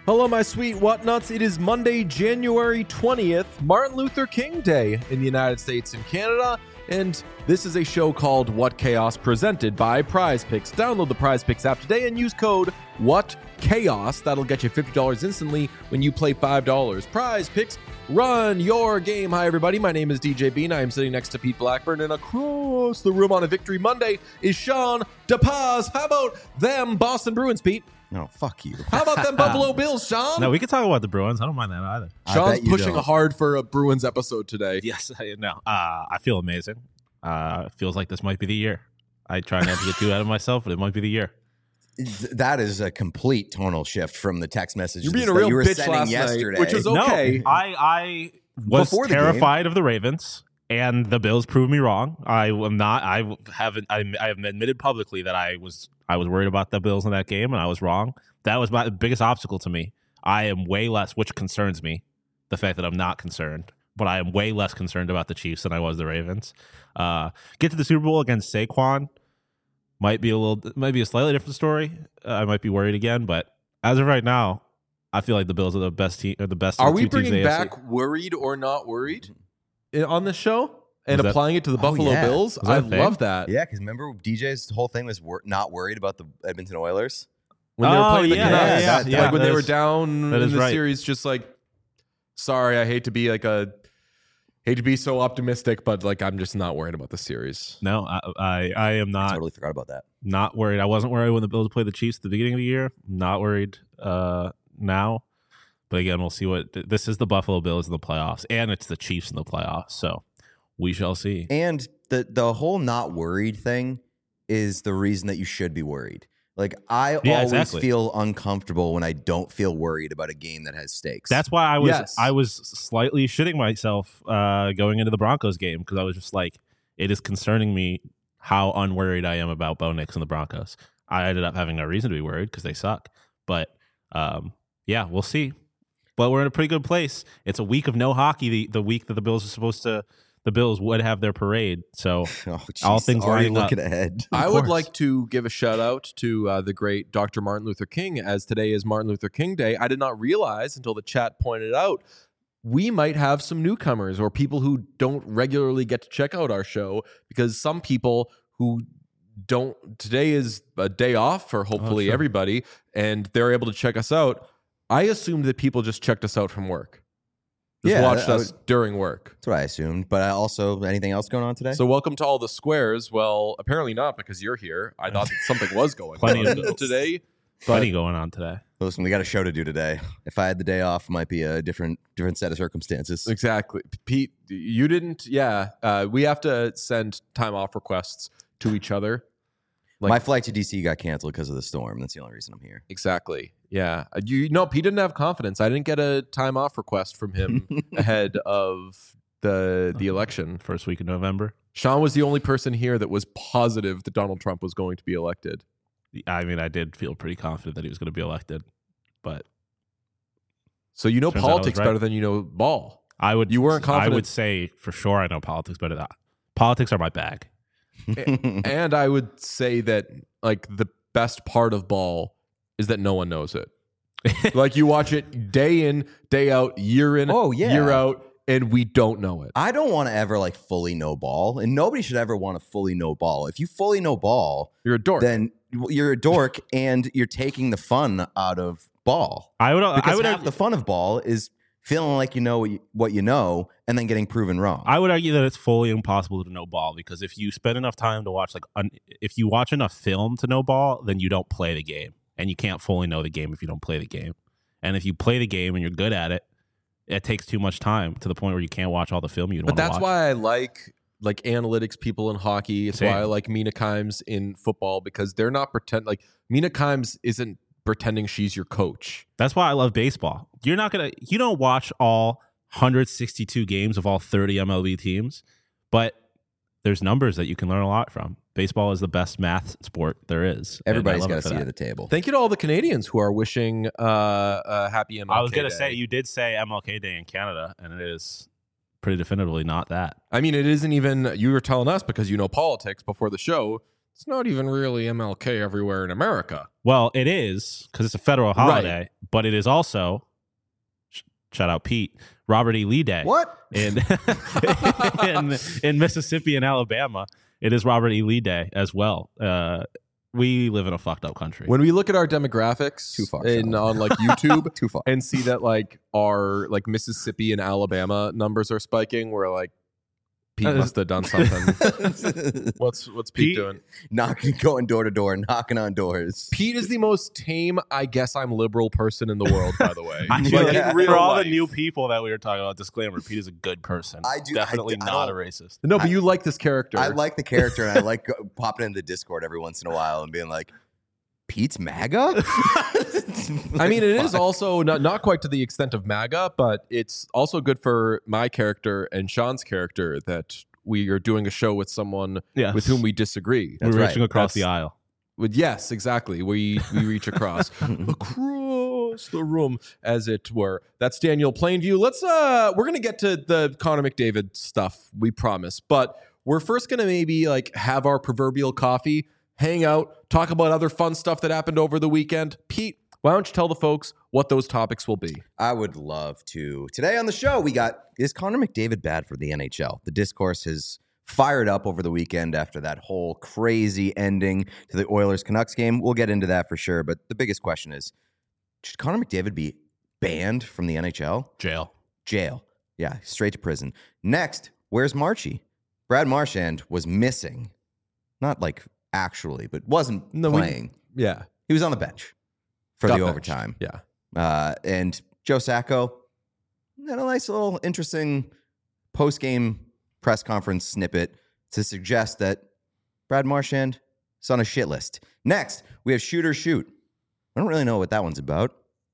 Hello, my sweet whatnuts. It is Monday, January 20th, Martin Luther King Day in the United States and Canada, and this is a show called What Chaos, presented by Prize Picks. Download the Prize Picks app today and use code WhatChaos. That'll get you $50 instantly when you play $5. Prize Picks, run your game. Hi, everybody. My name is DJ Bean. I am sitting next to Pete Blackburn, and across the room on a Victory Monday is Sean DePaz. How about them Boston Bruins, Pete? No, fuck you. How about them Buffalo Bills, Sean? No, we can talk about the Bruins. I don't mind that either. Sean's pushing hard for a Bruins episode today. Yes, I know. I feel amazing. Feels like this might be the year. I try not to get too out of myself, but it might be the year. That is a complete tonal shift from the text messages You're being a real you were bitch sending last yesterday. night, which is okay. No, I was Before the terrified of the Ravens, and the Bills proved me wrong. I am not. I have admitted publicly that I was worried about the Bills in that game, and I was wrong. That was my biggest obstacle to me. I am way less, which concerns me, the fact that I'm not concerned, but I am way less concerned about the Chiefs than I was the Ravens. Get to the Super Bowl against Saquon might be a slightly different story. I might be worried again, but as of right now, I feel like the Bills are the best team. Or the best. Are we bringing back worried or not worried on this show and applying it to the Buffalo Bills? I love that. Yeah, because remember DJ's whole thing was not worried about the Edmonton Oilers when they were playing the Canucks. Yeah, when they were down in the right. series, just like, sorry, I hate to be so optimistic, but like I'm just not worried about the series. No, I am not. I totally forgot about that. Not worried. I wasn't worried when the Bills played the Chiefs at the beginning of the year. Not worried now. But again, we'll see what this is. The Buffalo Bills in the playoffs, and it's the Chiefs in the playoffs. So we shall see. And the whole not worried thing is the reason that you should be worried. Like I always feel uncomfortable when I don't feel worried about a game that has stakes. That's why I was slightly shitting myself going into the Broncos game, because I was just like, it is concerning me how unworried I am about Bo Nix and the Broncos. I ended up having no reason to be worried because they suck. But yeah, we'll see. But we're in a pretty good place. It's a week of no hockey. The week that the Bills would have their parade. So all things already lining up. looking ahead. I would like to give a shout out to the great Dr. Martin Luther King, as today is Martin Luther King Day. I did not realize until the chat pointed out we might have some newcomers or people who don't regularly get to check out our show, because some people who don't, today is a day off for hopefully everybody, and they're able to check us out. I assumed that people just checked us out from work. Watched us during work. That's what I assumed. But I also, anything else going on today? So welcome to all the squares. Well, apparently not, because you're here. I thought that something was going on today. Plenty going on today. Listen, we got a show to do today. If I had the day off, it might be a different set of circumstances. Exactly. Pete, you didn't. Yeah. We have to send time off requests to each other. My flight to DC got canceled because of the storm. That's the only reason I'm here. Exactly. Yeah. Pete didn't have confidence. I didn't get a time off request from him ahead of the election. First week of November. Sean was the only person here that was positive that Donald Trump was going to be elected. I mean, I did feel pretty confident that he was going to be elected, but so you know politics better than you know ball. You weren't confident. I would say for sure I know politics better. Politics are my bag. And I would say that like the best part of ball is that no one knows it. Like you watch it day in, day out, year in, year out, and we don't know it. I don't want to ever like fully know ball, and nobody should ever want to fully know ball. If you fully know ball, you're a dork. Then you're a dork, and you're taking the fun out of ball. Because half the fun of ball is feeling like you know what you know, and then getting proven wrong. I would argue that it's fully impossible to know ball, because if you spend enough time to watch, if you watch enough film to know ball, then you don't play the game, and you can't fully know the game if you don't play the game. And if you play the game and you're good at it, it takes too much time to the point where you can't watch all the film you want to watch. But that's why I like analytics people in hockey. It's why I like Mina Kimes in football, because they're not Mina Kimes isn't pretending she's your coach. That's why I love baseball. You don't watch all 162 games of all 30 MLB teams, but there's numbers that you can learn a lot from. Baseball is the best math sport there is. Everybody's got a seat at the table. Thank you to all the Canadians who are wishing a happy MLK Day. I was going to say, you did say MLK Day in Canada, and it is pretty definitively not that. I mean, it isn't even, you were telling us because you know politics before the show, It's not even really MLK everywhere in America. Well, it is because it's a federal holiday, but it is also, shout out Pete, Robert E. Lee Day. What? In Mississippi and Alabama, it is Robert E. Lee Day as well. We live in a fucked up country. When we look at our demographics on like YouTube Too far. and see that like our like Mississippi and Alabama numbers are spiking, we're like, Pete must have done something. What's Pete doing? Going door to door, knocking on doors. Pete is the most tame, I guess I'm liberal person in the world, by the way. For all the new people that we were talking about, disclaimer, Pete is a good person. Definitely not a racist. No, but you like this character. I like the character, and I like popping into Discord every once in a while and being like, Pete's MAGA? I mean, it is also not quite to the extent of MAGA, but it's also good for my character and Sean's character that we are doing a show with someone with whom we disagree. We're reaching across the aisle. Yes, exactly. We reach across the room, as it were. That's Daniel Plainview. We're gonna get to the Connor McDavid stuff, we promise, but we're first gonna maybe like have our proverbial coffee, hang out, talk about other fun stuff that happened over the weekend. Pete, why don't you tell the folks what those topics will be? I would love to. Today on the show, we got, is Connor McDavid bad for the NHL? The discourse has fired up over the weekend after that whole crazy ending to the Oilers-Canucks game. We'll get into that for sure, but the biggest question is, should Connor McDavid be banned from the NHL? Jail. Yeah, straight to prison. Next, where's Marchie? Brad Marchand was missing. Not like actually, but wasn't playing. He was on the bench for the overtime. Yeah. And Joe Sacco had a nice little interesting post-game press conference snippet to suggest that Brad Marchand is on a shit list. Next, we have Shoot or Shoot. I don't really know what that one's about.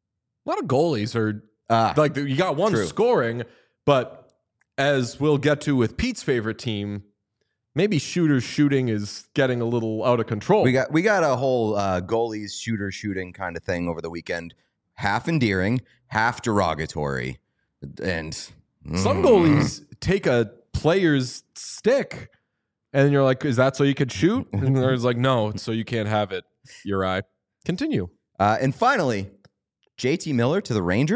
A lot of goalies are like, you got one scoring, but as we'll get to with Pete's favorite team, maybe shooters shooting is getting a little out of control. We got a whole goalies shooting kind of thing over the weekend. Half endearing, half derogatory. And some goalies take a player's stick and you're like, is that so you could shoot? And there's like, no, it's so you can't have it. Uri. Continue. And finally, JT Miller to the Rangers? ?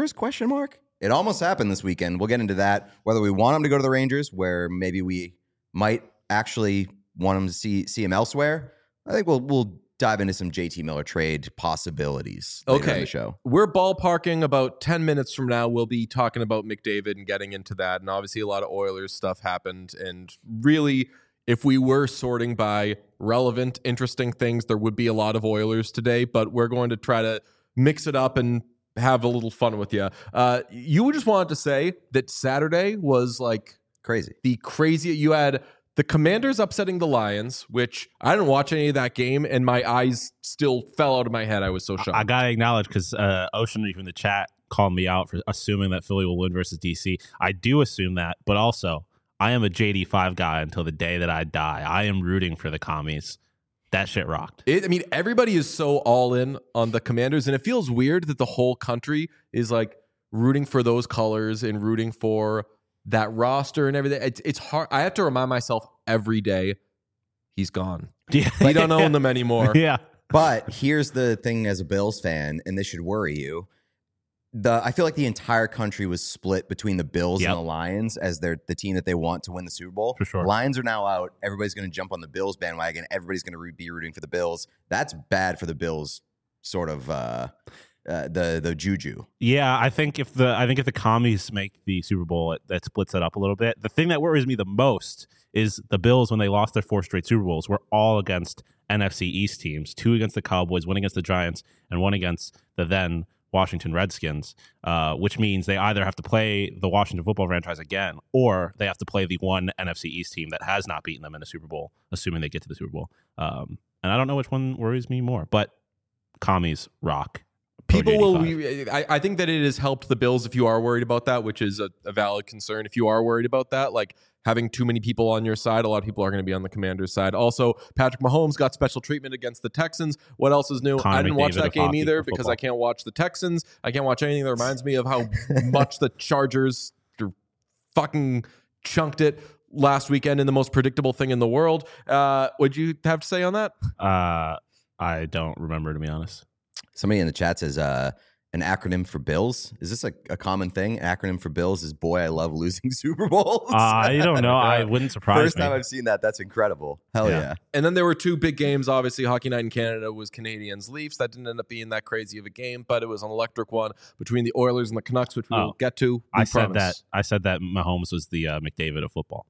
It almost happened this weekend. We'll get into that. Whether we want him to go to the Rangers, where maybe we might actually want him to see him elsewhere. I think we'll dive into some JT Miller trade possibilities later in the show. We're ballparking about 10 minutes from now. We'll be talking about McDavid and getting into that. And obviously a lot of Oilers stuff happened. And really, if we were sorting by relevant, interesting things, there would be a lot of Oilers today. But we're going to try to mix it up and have a little fun with you. You just wanted to say that Saturday was like crazy. You had the Commanders upsetting the Lions, which I didn't watch any of that game, and my eyes still fell out of my head. I was so shocked. I got to acknowledge, because Ocean Reef in the chat called me out for assuming that Philly will win versus DC. I do assume that, but also I am a JD5 guy until the day that I die. I am rooting for the commies. That shit rocked. Everybody is so all in on the Commanders, and it feels weird that the whole country is like rooting for those colors and rooting for that roster and everything. It's hard. I have to remind myself every day, he's gone. Yeah. We don't own them anymore. Yeah. But here's the thing as a Bills fan, and this should worry you. I feel like the entire country was split between the Bills and the Lions as the team that they want to win the Super Bowl. For sure. Lions are now out. Everybody's going to jump on the Bills bandwagon. Everybody's going to be rooting for the Bills. That's bad for the Bills, sort of the juju. Yeah, I think if the commies make the Super Bowl, that splits it up a little bit. The thing that worries me the most is the Bills, when they lost their 4 straight Super Bowls, were all against NFC East teams. 2 against the Cowboys, 1 against the Giants, and 1 against the then Washington Redskins, which means they either have to play the Washington football franchise again, or they have to play the one NFC East team that has not beaten them in a Super Bowl, assuming they get to the Super Bowl. And I don't know which one worries me more, but commies rock. People will. I think that it has helped the Bills if you are worried about that, which is a valid concern. If you are worried about that, like having too many people on your side, a lot of people are going to be on the Commanders' side. Also, Patrick Mahomes got special treatment against the Texans. What else is new? I didn't watch that game either because I can't watch the Texans. I can't watch anything that reminds me of how much the Chargers fucking chunked it last weekend in the most predictable thing in the world. What'd you have to say on that? I don't remember, to be honest. Somebody in the chat says an acronym for Bills. Is this a common thing? An acronym for Bills is boy, I love losing Super Bowls. I don't know. I wouldn't surprise me. First time I've seen that. That's incredible. Hell yeah. And then there were two big games. Obviously, Hockey Night in Canada was Canadiens Leafs. That didn't end up being that crazy of a game, but it was an electric one between the Oilers and the Canucks, which we'll get to. I said that Mahomes was the McDavid of football.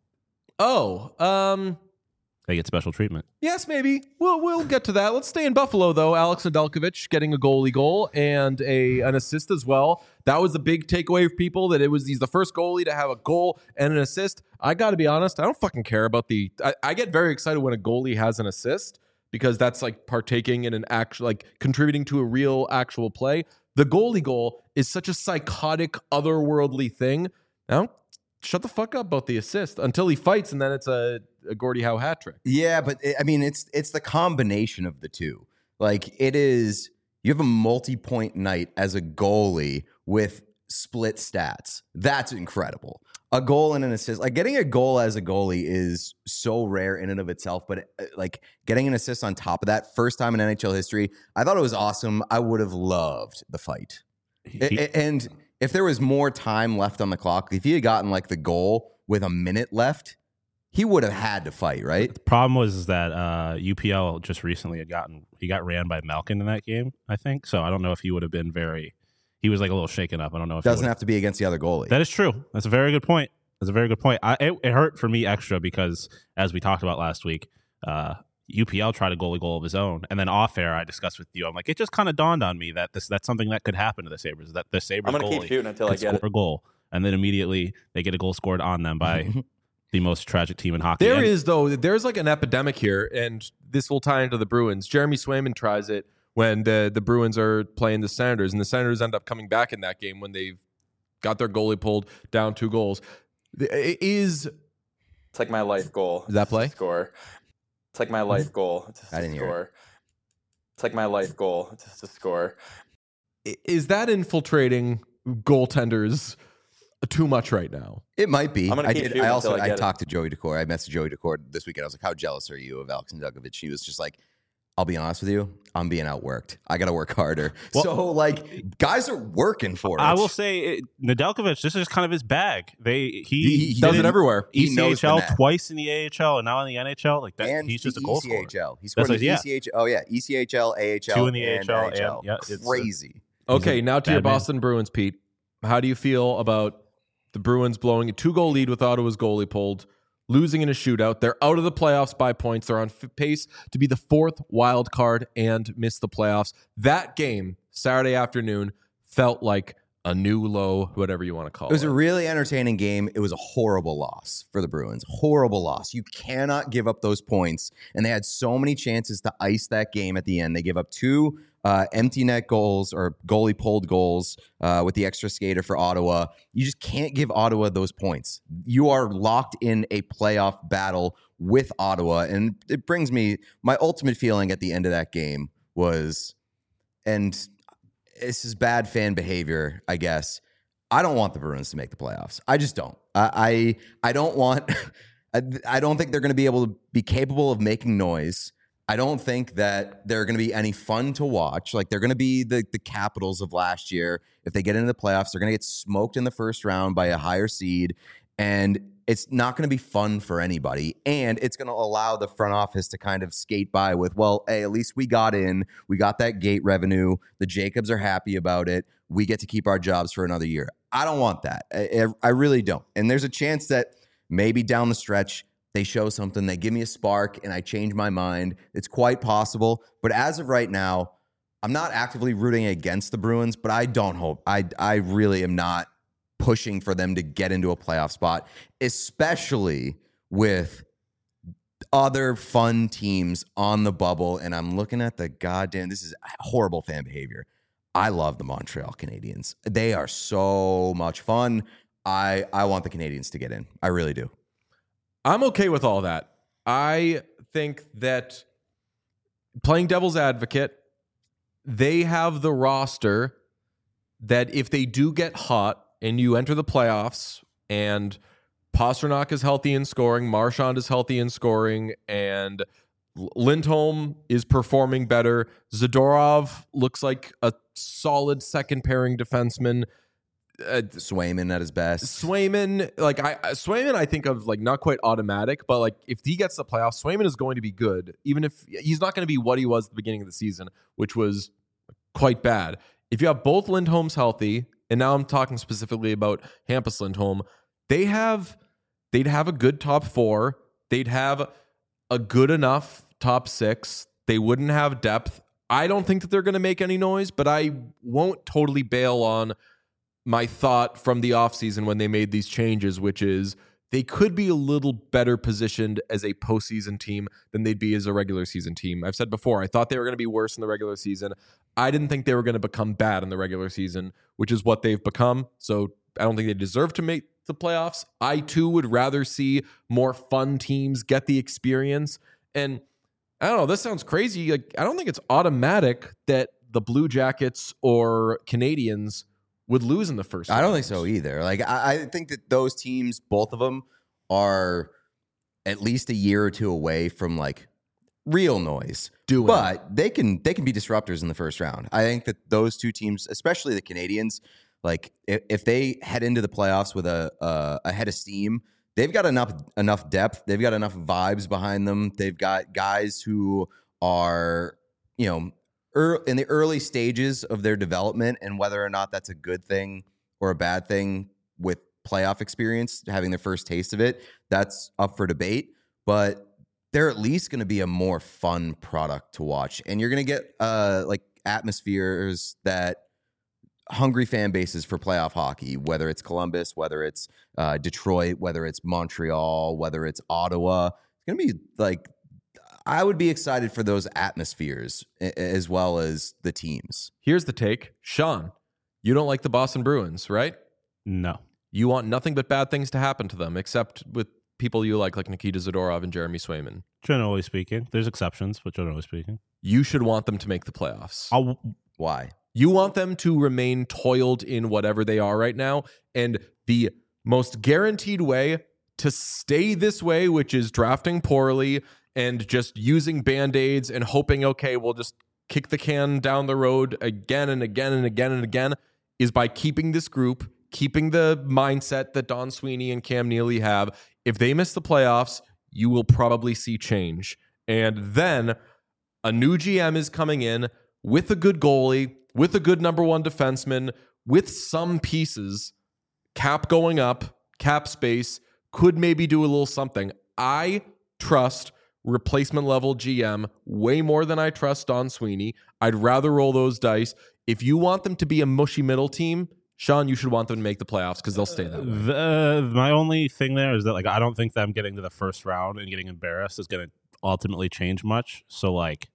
They get special treatment. Yes, maybe. We'll get to that. Let's stay in Buffalo, though. Alex Nedeljkovic getting a goalie goal and an assist as well. That was the big takeaway for people, that he's the first goalie to have a goal and an assist. I got to be honest, I don't fucking care about I get very excited when a goalie has an assist, because that's like partaking in an actual, like contributing to a real actual play. The goalie goal is such a psychotic, otherworldly thing. Now, shut the fuck up about the assist until he fights, and then it's a Gordie Howe hat trick. Yeah, but it's the combination of the two. Like, it is, you have a multi-point night as a goalie with split stats. That's incredible. A goal and an assist. Like, getting a goal as a goalie is so rare in and of itself, but like getting an assist on top of that, first time in NHL history, I thought it was awesome. I would have loved the fight. And if there was more time left on the clock, if he had gotten like the goal with a minute left, he would have had to fight, right? The problem was that UPL just recently he got ran by Malkin in that game, I think. So I don't know if he would have been he was like a little shaken up. I don't know if doesn't have to be against the other goalie. That is true. That's a very good point. It hurt for me extra because, as we talked about last week, UPL tried a goalie goal of his own, and then off air I discussed with you. I'm like, it just kind of dawned on me that that's something that could happen to the Sabres. That the Sabres I'm gonna keep shooting until I get score a goal, and then immediately they get a goal scored on them by the most tragic team in hockey. There's like an epidemic here, and this will tie into the Bruins. Jeremy Swayman tries it when the Bruins are playing the Senators, and the Senators end up coming back in that game when they've got their goalie pulled down 2 goals. It's like my life goal. Does that play? Score. It's like my life goal to I didn't hear it. It's like my life goal to score. Is that infiltrating goaltenders too much right now? It might be. I talked to Joey Daccord. I messaged Joey Daccord this weekend. I was like, how jealous are you of Alex Nedeljkovic? He was just like, I'll be honest with you, I'm being outworked. I got to work harder. Well, so, like, guys are working for it. I will say, Nedeljkovic, this is kind of his bag. He does it everywhere. ECHL twice in the AHL and now in the NHL. Like that, and he's just a goal scorer. He scored in the ECHL. Oh yeah, ECHL, AHL, 2 in the and AHL. NHL. Crazy. Okay, now to your Boston Bruins, Pete. How do you feel about the Bruins blowing a 2-goal lead with Ottawa's goalie pulled, losing in a shootout? They're out of the playoffs by points. They're on pace to be the 4th wild card and miss the playoffs. That game, Saturday afternoon, felt like a new low, whatever you want to call it. It was a really entertaining game. It was a horrible loss for the Bruins. Horrible loss. You cannot give up those points. And they had so many chances to ice that game at the end. They give up 2 empty net goals or goalie pulled goals with the extra skater for Ottawa. You just can't give Ottawa those points. You are locked in a playoff battle with Ottawa. And it brings me, my ultimate feeling at the end of that game was, and this is bad fan behavior, I guess, I don't want the Bruins to make the playoffs. I just don't. I don't want, I don't think they're going to be able to be capable of making noise. I don't think that they're going to be any fun to watch. Like, they're going to be the Capitals of last year. If they get into the playoffs, they're going to get smoked in the first round by a higher seed. And it's not going to be fun for anybody. And it's going to allow the front office to kind of skate by with, well, hey, at least we got in. We got that gate revenue. The Jacobs are happy about it. We get to keep our jobs for another year. I don't want that. I really don't. And there's a chance that maybe down the stretch, they show something, they give me a spark, and I change my mind. It's quite possible. But as of right now, I'm not actively rooting against the Bruins, but I don't hope. I really am not pushing for them to get into a playoff spot, especially with other fun teams on the bubble. And I'm looking at the goddamn, this is horrible fan behavior. I love the Montreal Canadiens. They are so much fun. I want the Canadiens to get in. I really do. I'm okay with all that. I think that, playing devil's advocate, they have the roster that if they do get hot and you enter the playoffs and Pasternak is healthy in scoring, Marchand is healthy in scoring, and Lindholm is performing better. Zadorov looks like a solid second pairing defenseman. Swayman at his best. Swayman, Swayman, I think of like not quite automatic, but like if he gets the playoffs, Swayman is going to be good, even if he's not going to be what he was at the beginning of the season, which was quite bad. If you have both Lindholms healthy, and now I'm talking specifically about Hampus Lindholm, they'd have a good top four. They'd have a good enough top six. They wouldn't have depth. I don't think that they're going to make any noise, but I won't totally bail on my thought from the offseason when they made these changes, which is they could be a little better positioned as a postseason team than they'd be as a regular season team. I've said before, I thought they were going to be worse in the regular season. I didn't think they were going to become bad in the regular season, which is what they've become. So I don't think they deserve to make the playoffs. I too would rather see more fun teams get the experience. And I don't know, this sounds crazy. Like, I don't think it's automatic that the Blue Jackets or Canadians would lose in the first round. I don't think so either. Like, I think that those teams, both of them, are at least a year or two away from like real noise. But they can be disruptors in the first round. I think that those two teams, especially the Canadians, like if they head into the playoffs with a head of steam, they've got enough depth. They've got enough vibes behind them. They've got guys who are, in the early stages of their development, and whether or not that's a good thing or a bad thing with playoff experience, having their first taste of it, that's up for debate. But they're at least going to be a more fun product to watch. And you're going to get like atmospheres that hungry fan bases for playoff hockey, whether it's Columbus, whether it's Detroit, whether it's Montreal, whether it's Ottawa. It's going to be like, I would be excited for those atmospheres as well as the teams. Here's the take. Sean, you don't like the Boston Bruins, right? No. You want nothing but bad things to happen to them, except with people you like Nikita Zadorov and Jeremy Swayman. Generally speaking. There's exceptions, but generally speaking. You should want them to make the playoffs. Why? You want them to remain toiled in whatever they are right now. And the most guaranteed way to stay this way, which is drafting poorly and just using Band-Aids and hoping, okay, we'll just kick the can down the road again and again and again and again, is by keeping this group, keeping the mindset that Don Sweeney and Cam Neely have. If they miss the playoffs, you will probably see change. And then a new GM is coming in with a good goalie, with a good number one defenseman, with some pieces, cap going up, cap space, could maybe do a little something. I trust replacement level GM way more than I trust Don Sweeney. I'd rather roll those dice. If you want them to be a mushy middle team, Sean, you should want them to make the playoffs because they'll stay that way. My only thing there is that like I don't think them getting to the first round and getting embarrassed is going to ultimately change much. So like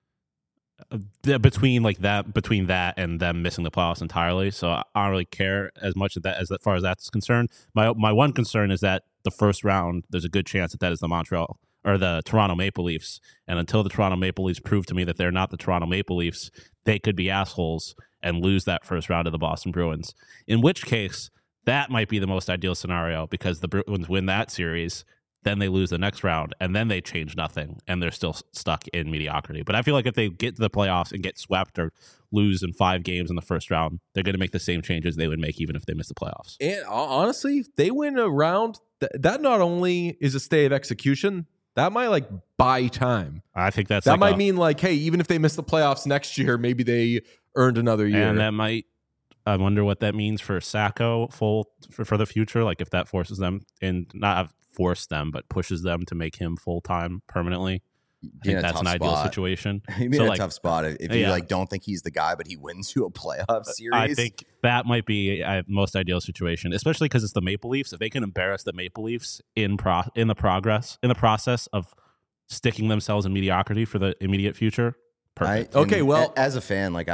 between that and them missing the playoffs entirely, so I don't really care as much as far as that's concerned. My one concern is that the first round, there's a good chance that is the Montreal or the Toronto Maple Leafs, and until the Toronto Maple Leafs prove to me that they're not the Toronto Maple Leafs, they could be assholes and lose that first round to the Boston Bruins. In which case, that might be the most ideal scenario because the Bruins win that series, then they lose the next round, and then they change nothing, and they're still stuck in mediocrity. But I feel like if they get to the playoffs and get swept or lose in 5 games in the first round, they're going to make the same changes they would make even if they miss the playoffs. And honestly, if they win a round, that not only is a stay of execution, that might like buy time. I think that might mean like, hey, even if they miss the playoffs next year, maybe they earned another year. And that might, I wonder what that means for Sacco for the future. Like if that forces them, and not force them, but pushes them to make him full-time permanently. I think that's an ideal situation. He'd be in a tough spot if you like don't think he's the guy, but he wins you a playoff series. I think that might be a most ideal situation, especially because it's the Maple Leafs. If they can embarrass the Maple Leafs in the process of sticking themselves in mediocrity for the immediate future, perfect. As a fan, like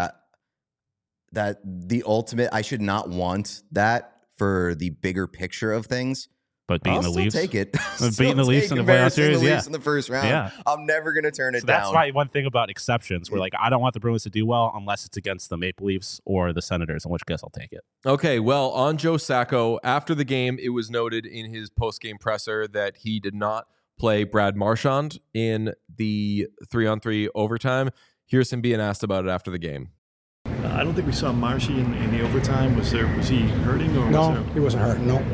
the ultimate, I should not want that for the bigger picture of things. But beating I'll the still Leafs, take it. beating the Leafs in the playoff series, the Leafs in the first round. Yeah. I'm never going to turn it So down. that's why one thing about exceptions, where like I don't want the Bruins to do well unless it's against the Maple Leafs or the Senators, in which case I'll take it. Okay, well, on Joe Sacco, after the game, it was noted in his post-game presser that he did not play Brad Marchand in the 3-on-3 overtime. Here's him being asked about it after the game. I don't think we saw Marshy in the overtime. Was he hurting or No, was he wasn't hurt. No.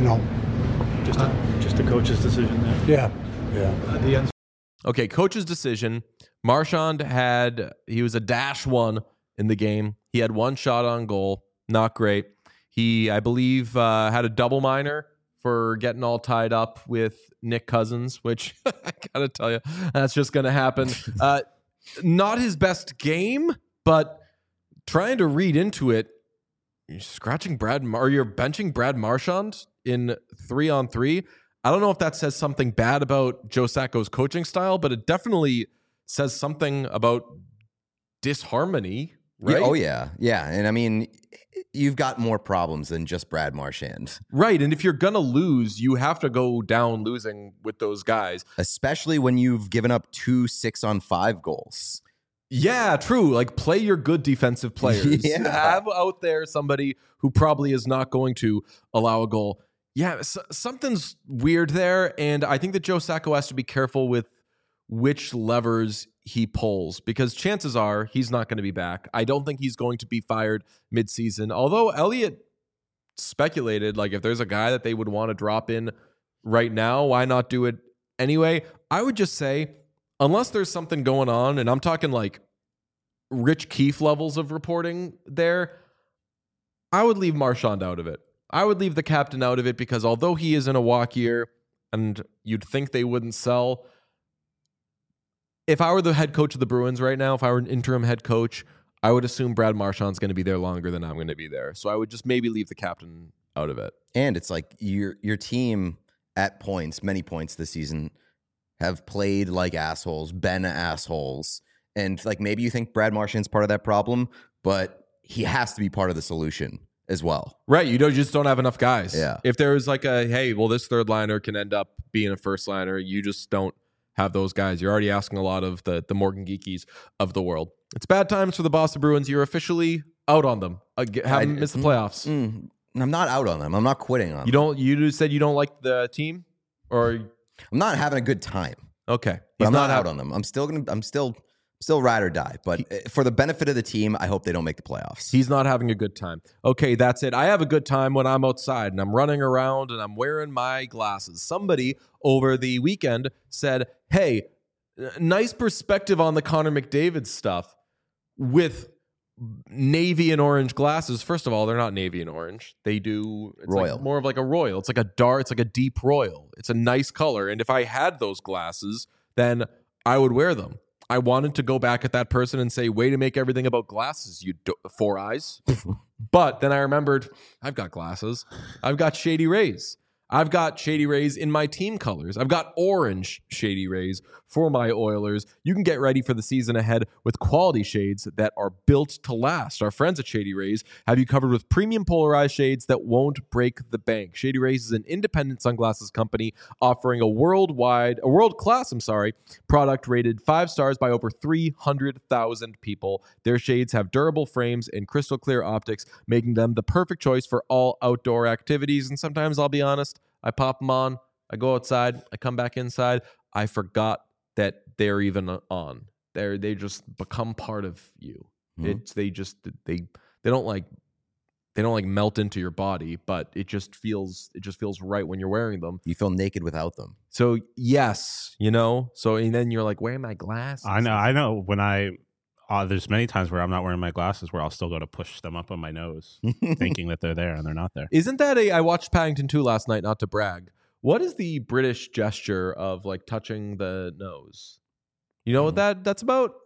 there just a coach's decision there? Yeah. The end. Okay, coach's decision. Marchand he was a -1 in the game. He had one shot on goal. Not great. He, I believe, had a double minor for getting all tied up with Nick Cousins, which I gotta tell you, that's just gonna happen. Not his best game, but trying to read into it, you're scratching you're benching Brad Marchand in 3-on-3. I don't know if that says something bad about Joe Sacco's coaching style, but it definitely says something about disharmony, right? Yeah, oh, yeah. Yeah. And I mean, you've got more problems than just Brad Marchand. Right. And if you're going to lose, you have to go down losing with those guys. Especially when you've given up 2 6-on-5 goals. Yeah, true. Like, play your good defensive players. Yeah. Have out there somebody who probably is not going to allow a goal. Yeah, something's weird there. And I think that Joe Sacco has to be careful with which levers he pulls, because chances are he's not going to be back. I don't think he's going to be fired midseason. Although Elliot speculated, like, if there's a guy that they would want to drop in right now, why not do it anyway? I would just say, unless there's something going on, and I'm talking like Rich Keefe levels of reporting there, I would leave Marchand out of it. I would leave the captain out of it, because although he is in a walk year and you'd think they wouldn't sell, if I were the head coach of the Bruins right now, if I were an interim head coach, I would assume Brad Marchand's going to be there longer than I'm going to be there. So I would just maybe leave the captain out of it. And it's like your team at many points this season, have played like assholes, been assholes. And like maybe you think Brad Marchand's part of that problem, but he has to be part of the solution as well. Right. You just don't have enough guys. Yeah. If there's like hey, well, this third liner can end up being a first liner, you just don't have those guys. You're already asking a lot of the Morgan Geekies of the world. It's bad times for the Boston Bruins. You're officially out on them. Haven't missed the playoffs. I'm not out on them. I'm not quitting on them. You said you don't like the team, or I'm not having a good time. okay. But I'm not out on them. I'm still ride or die. But for the benefit of the team, I hope they don't make the playoffs. He's not having a good time. Okay, that's it. I have a good time when I'm outside and I'm running around and I'm wearing my glasses. Somebody over the weekend said, hey, nice perspective on the Connor McDavid stuff with navy and orange glasses. First of all, they're not navy and orange. They do it's royal. Like more of like a royal. It's like a deep royal. It's a nice color. And if I had those glasses, then I would wear them. I wanted to go back at that person and say, way to make everything about glasses, you four eyes. But then I remembered, I've got glasses. I've got Shady Rays. I've got Shady Rays in my team colors. I've got orange Shady Rays for my Oilers. You can get ready for the season ahead with quality shades that are built to last. Our friends at Shady Rays have you covered with premium polarized shades that won't break the bank. Shady Rays is an independent sunglasses company offering a world-class product rated 5 stars by over 300,000 people. Their shades have durable frames and crystal clear optics, making them the perfect choice for all outdoor activities. And sometimes, I'll be honest, I pop them on, I go outside, I come back inside, I forgot that they're even on. They just become part of you. Mm-hmm. They don't like melt into your body, but it just feels right when you're wearing them. You feel naked without them. So yes, and then you're like, wearing my glasses. I know when there's many times where I'm not wearing my glasses where I'll still go to push them up on my nose thinking that they're there and they're not there. Isn't that I watched Paddington 2 last night, not to brag. What is the British gesture of like touching the nose? You know what that's about?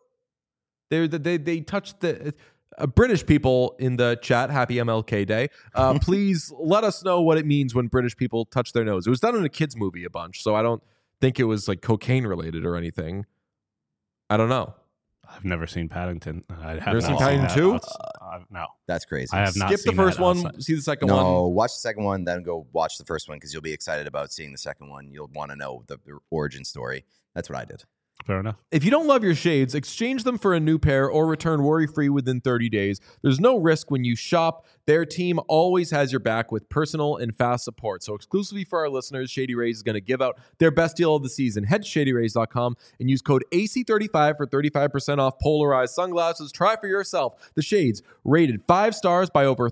They touch the British people in the chat. Happy MLK Day. Please let us know what it means when British people touch their nose. It was done in a kids movie a bunch, so I don't think it was like cocaine related or anything. I don't know. I've never seen Paddington. Never seen Paddington 2? No, That's crazy. I have not Skip the seen first that one, outside. see the second No, one. watch the second one, then go watch the first one because you'll be excited about seeing the second one. You'll want to know the origin story. That's what I did. Fair enough. If you don't love your shades, exchange them for a new pair or return worry-free within 30 days. There's no risk when you shop. Their team always has your back with personal and fast support. So exclusively for our listeners, Shady Rays is going to give out their best deal of the season. Head to shadyrays.com and use code AC35 for 35% off polarized sunglasses. Try for yourself. The Shades, rated 5 stars by over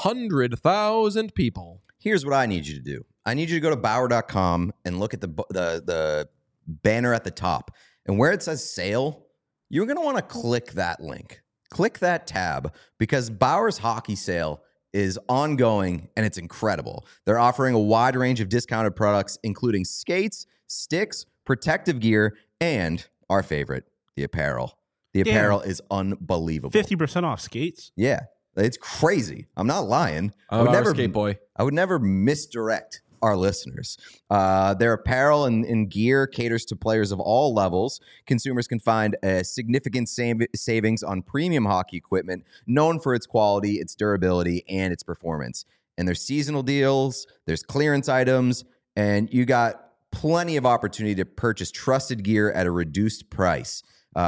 300,000 people. Here's what I need you to do. I need you to go to Bauer.com and look at the banner at the top. And where it says sale, you're going to want to click that link. Click that tab because Bauer's hockey sale is ongoing and it's incredible. They're offering a wide range of discounted products, including skates, sticks, protective gear, and our favorite, the apparel. The apparel is unbelievable. 50% off skates. Yeah, it's crazy. I'm not lying. I'm a skate boy. I would never misdirect our listeners. Their apparel and gear caters to players of all levels. Consumers can find a significant savings on premium hockey equipment, known for its quality, its durability, and its performance. And there's seasonal deals, there's clearance items, and you got plenty of opportunity to purchase trusted gear at a reduced price.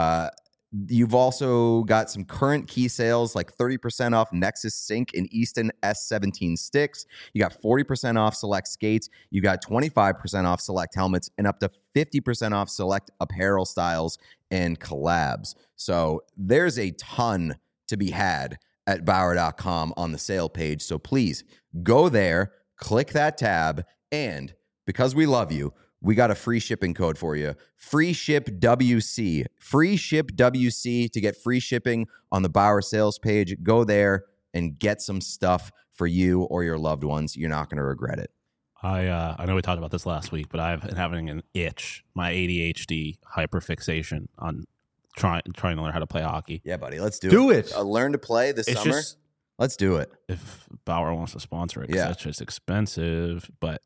You've also got some current key sales like 30% off Nexus Sync and Easton S17 sticks. You got 40% off select skates. You got 25% off select helmets and up to 50% off select apparel styles and collabs. So there's a ton to be had at Bauer.com on the sale page. So please go there, click that tab, and because we love you, we got a free shipping code for you. Free ship WC. Free ship WC to get free shipping on the Bauer sales page. Go there and get some stuff for you or your loved ones. You're not going to regret it. I know we talked about this last week, but I've been having an itch, my ADHD hyperfixation on trying to learn how to play hockey. Yeah, buddy. Let's Do it. Learn to play this It's summer. just- Let's do it. If Bauer wants to sponsor it, 'cause Yeah. that's just expensive, but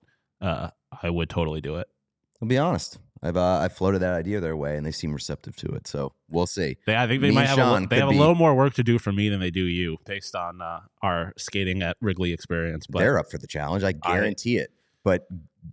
I would totally do it. I'll be honest. I've floated that idea their way, and they seem receptive to it. So we'll see. I think they Me might and have Sean they have could a be- little more work to do for me than they do you, based on our skating at Wrigley experience. But They're up for the challenge. I guarantee it. But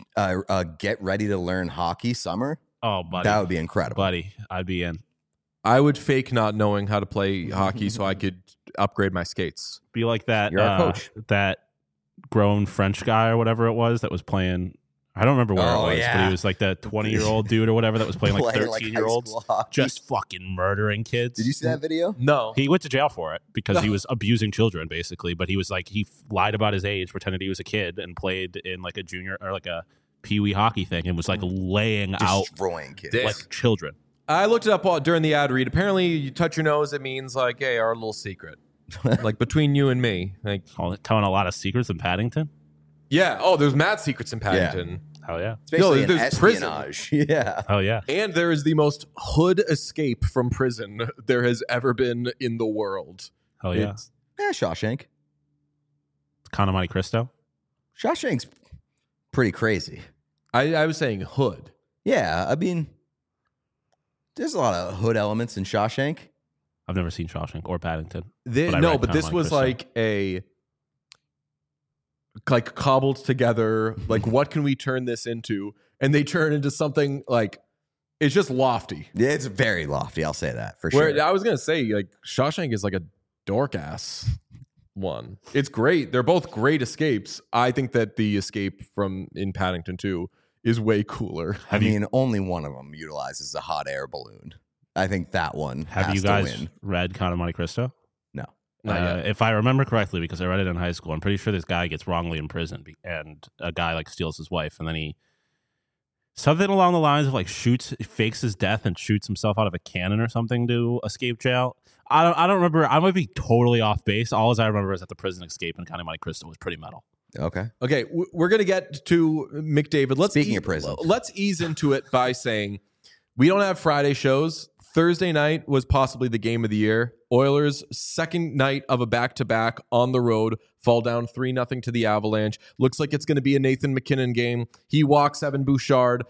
get ready to learn hockey summer. oh, buddy, That would be incredible. buddy, I'd be in. I would fake not knowing how to play hockey so I could upgrade my skates. Be like that. You're our coach. That grown French guy or whatever it was that was playing. I don't remember where Oh, it was, but yeah. he was like that 20-year-old dude or whatever that was playing like Playing 13-year-olds, high school hockey. just fucking murdering kids. Did you see that video? No. He went to jail for it because he was abusing children, basically. But he was like, he lied about his age, pretended he was a kid, and played in like a junior or like a peewee hockey thing, and was like laying out Destroying kids. Damn. like children. I looked it up during the ad read. Apparently, you touch your nose, it means like, hey, our little secret. Like between you and me. Like, Telling a lot of secrets in Paddington. yeah. Oh, there's mad secrets in Paddington. Hell yeah. It's basically No, an there's prison. espionage. Yeah. Hell yeah. And there is the most hood escape from prison there has ever been in the world. Hell yeah. It's- Shawshank. Conor Monte Cristo. Shawshank's pretty crazy. I was saying hood. Yeah, I mean, there's a lot of hood elements in Shawshank. I've never seen Shawshank or Paddington. This, But I no, read but this Conor was Monte like a cobbled together. Like, what can we turn this into? And they turn into something like it's just lofty. Yeah, it's very lofty. I'll say that for Where sure. I was gonna say like Shawshank is like a dork ass one. It's great. They're both great escapes. I think that the escape from in Paddington 2 is way cooler. I mean, only one of them utilizes a hot air balloon. I think that one Have has you to guys win. read Conor Monte Cristo? No. Not yet. If I remember correctly, because I read it in high school, I'm pretty sure this guy gets wrongly imprisoned, and a guy like steals his wife, and then he something along the lines of like fakes his death and shoots himself out of a cannon or something to escape jail. I don't remember. I might be totally off base. All I remember is that the prison escape in Conor Monte Cristo was pretty metal. Okay. Okay, we're gonna get to McDavid. Speaking of prison. let's ease into it by saying we don't have Friday shows. Thursday night was possibly the game of the year. Oilers' second night of a back-to-back on the road fall down 3-0 to the Avalanche. Looks like it's going to be a Nathan McKinnon game. He walks Evan Bouchard.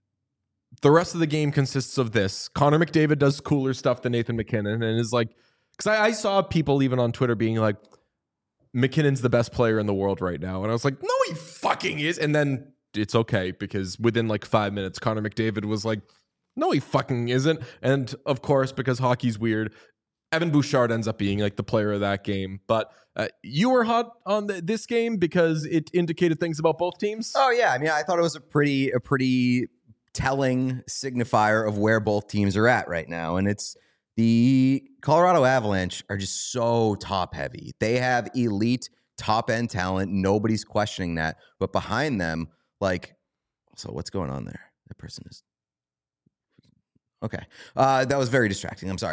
The rest of the game consists of this. Connor McDavid does cooler stuff than Nathan McKinnon and is like because I saw people even on Twitter being like, McKinnon's the best player in the world right now. And I was like, no, he fucking is. And then it's okay because within like 5 minutes, Connor McDavid was like, no, he fucking isn't. And of course, because hockey's weird, Evan Bouchard ends up being like the player of that game. But you were hot on this game because it indicated things about both teams. Oh yeah, I mean, I thought it was a pretty telling signifier of where both teams are at right now, and it's the Colorado Avalanche are just so top heavy. They have elite top end talent. Nobody's questioning that, but behind them, like, so what's going on there? That person is. Okay. That was very distracting. I'm sorry.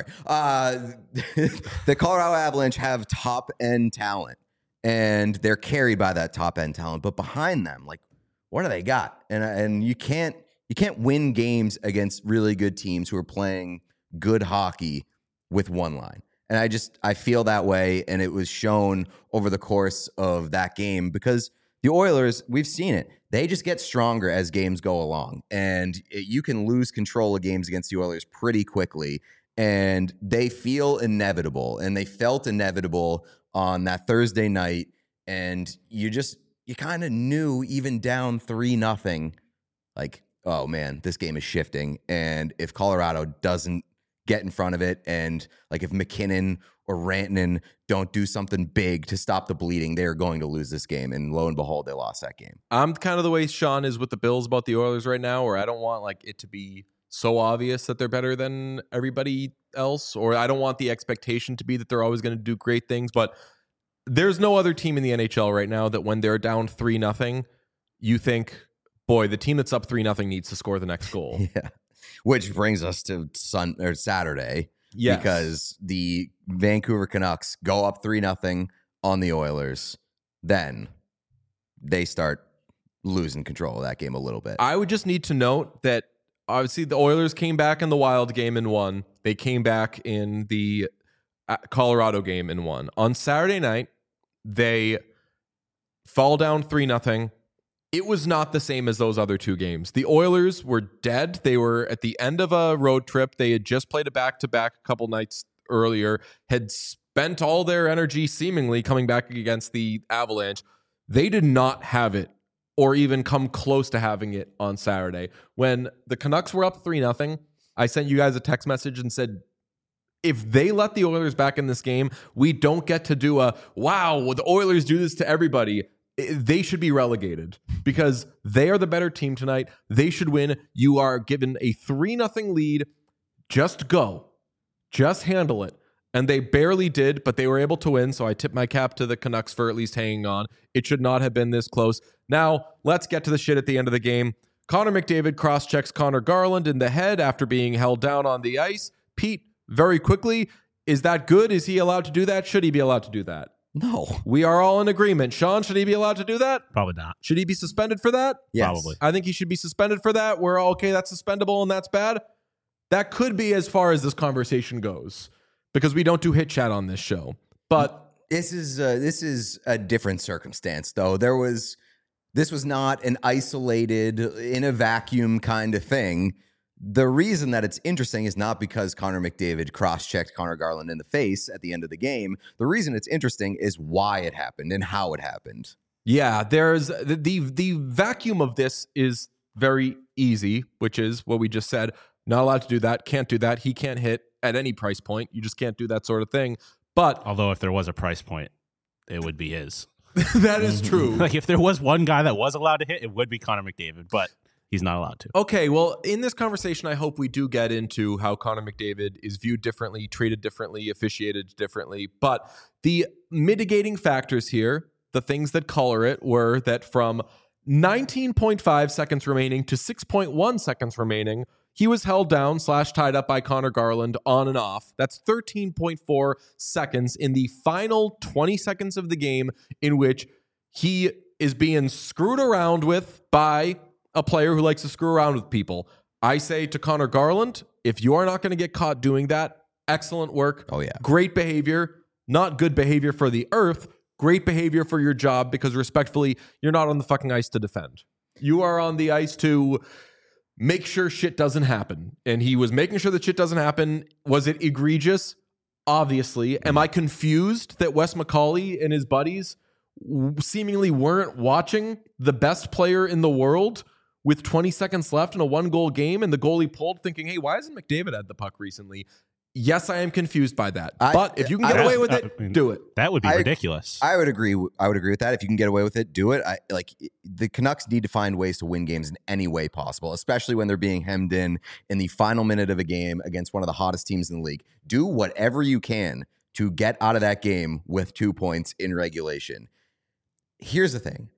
The Colorado Avalanche have top-end talent, and they're carried by that top-end talent. But behind them, like, what do they got? And you can't win games against really good teams who are playing good hockey with one line. And I feel that way, and it was shown over the course of that game because the Oilers, we've seen it. They just get stronger as games go along, and you can lose control of games against the Oilers pretty quickly, and they feel inevitable, and they felt inevitable on that Thursday night, and you kind of knew even down 3-0, like, oh man, this game is shifting, and if Colorado doesn't get in front of it, and like if McKinnon or Rantanen don't do something big to stop the bleeding, they are going to lose this game. And lo and behold, they lost that game. I'm kind of the way Sean is with the Bills about the Oilers right now, where I don't want like it to be so obvious that they're better than everybody else, or I don't want the expectation to be that they're always going to do great things. But there's no other team in the NHL right now that when they're down 3-0, you think, boy, the team that's up 3-0 needs to score the next goal. Yeah. Which brings us to Saturday. Yes. Because the Vancouver Canucks go up 3-0 on the Oilers. Then they start losing control of that game a little bit. I would just need to note that obviously the Oilers came back in the Wild game and won. They came back in the Colorado game and won. On Saturday night, they fall down 3-0. It was not the same as those other two games. The Oilers were dead. They were at the end of a road trip. They had just played a back-to-back a couple nights earlier, had spent all their energy seemingly coming back against the Avalanche. They did not have it or even come close to having it on Saturday. When the Canucks were up 3-0, I sent you guys a text message and said, if they let the Oilers back in this game, we don't get to do wow, the Oilers do this to everybody. They should be relegated because they are the better team tonight. They should win. You are given a 3-0 lead. Just go. Just handle it. And they barely did, but they were able to win. So I tip my cap to the Canucks for at least hanging on. It should not have been this close. Now, let's get to the shit at the end of the game. Connor McDavid cross-checks Connor Garland in the head after being held down on the ice. Pete, very quickly, is that good? Is he allowed to do that? Should he be allowed to do that? No. We are all in agreement. Sean, should he be allowed to do that? Probably not. Should he be suspended for that? Yes. Probably. I think he should be suspended for that. We're all okay, that's suspendable and that's bad. That could be as far as this conversation goes because we don't do hit chat on this show. But this is a different circumstance, though. This was not an isolated, in a vacuum kind of thing. The reason that it's interesting is not because Connor McDavid cross-checked Connor Garland in the face at the end of the game. The reason it's interesting is why it happened and how it happened. yeah, there's the vacuum of this is very easy, which is what we just said. Not allowed to do that. Can't do that. He can't hit at any price point. You just can't do that sort of thing. But Although if there was a price point, it would be his. that is true. Like if there was one guy that was allowed to hit, it would be Connor McDavid, but he's not allowed to. Okay, well, in this conversation, I hope we do get into how Connor McDavid is viewed differently, treated differently, officiated differently. But the mitigating factors here, the things that color it, were that from 19.5 seconds remaining to 6.1 seconds remaining, he was held down / tied up by Connor Garland on and off. That's 13.4 seconds in the final 20 seconds of the game in which he is being screwed around with by a player who likes to screw around with people. I say to Connor Garland, if you are not going to get caught doing that, excellent work. Oh, yeah. Great behavior. Not good behavior for the earth. Great behavior for your job because respectfully, you're not on the fucking ice to defend. You are on the ice to make sure shit doesn't happen. And he was making sure that shit doesn't happen. Was it egregious? Obviously. Am I confused that Wes McCauley and his buddies seemingly weren't watching the best player in the world with 20 seconds left in a 1-goal game and the goalie pulled, thinking, hey, why hasn't McDavid had the puck recently? Yes, I am confused by that. But if you can get away with it, do it. That would be ridiculous. I would agree. I would agree with that. If you can get away with it, do it. The Canucks need to find ways to win games in any way possible, especially when they're being hemmed in the final minute of a game against one of the hottest teams in the league. Do whatever you can to get out of that game with 2 points in regulation. Here's the thing.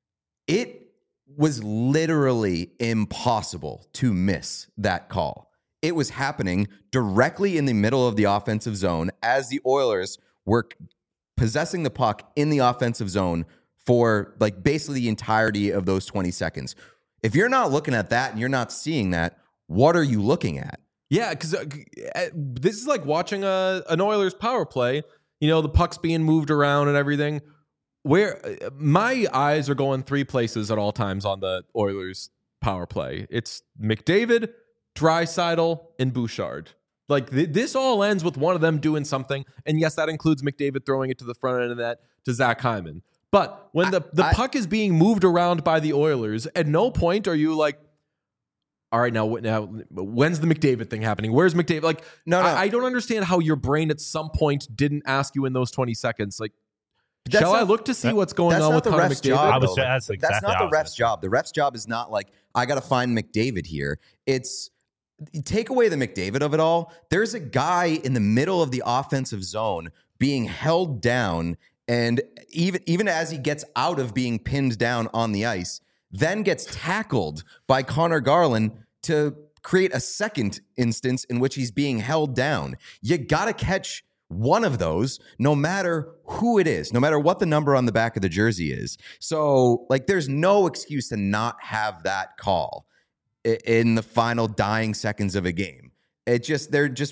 It was literally impossible to miss that call. It was happening directly in the middle of the offensive zone as the Oilers were possessing the puck in the offensive zone for basically the entirety of those 20 seconds. If you're not looking at that and you're not seeing that, what are you looking at? Yeah, because this is like watching an Oilers power play. The puck's being moved around and everything. Where my eyes are going 3 places at all times on the Oilers power play. It's McDavid, Draisaitl, and Bouchard. This all ends with one of them doing something. And yes, that includes McDavid throwing it to the front end of that to Zach Hyman. But when the puck is being moved around by the Oilers, at no point are you like, all right, now when's the McDavid thing happening? Where's McDavid? No. I don't understand how your brain at some point didn't ask you in those 20 seconds, shall I look to see what's going on with Connor McDavid? That's not the ref's job. The ref's job is not I got to find McDavid here. It's take away the McDavid of it all. There's a guy in the middle of the offensive zone being held down, and even as he gets out of being pinned down on the ice, then gets tackled by Connor Garland to create a second instance in which he's being held down. You got to catch one of those, no matter who it is, no matter what the number on the back of the jersey is. So, there's no excuse to not have that call in the final dying seconds of a game. It's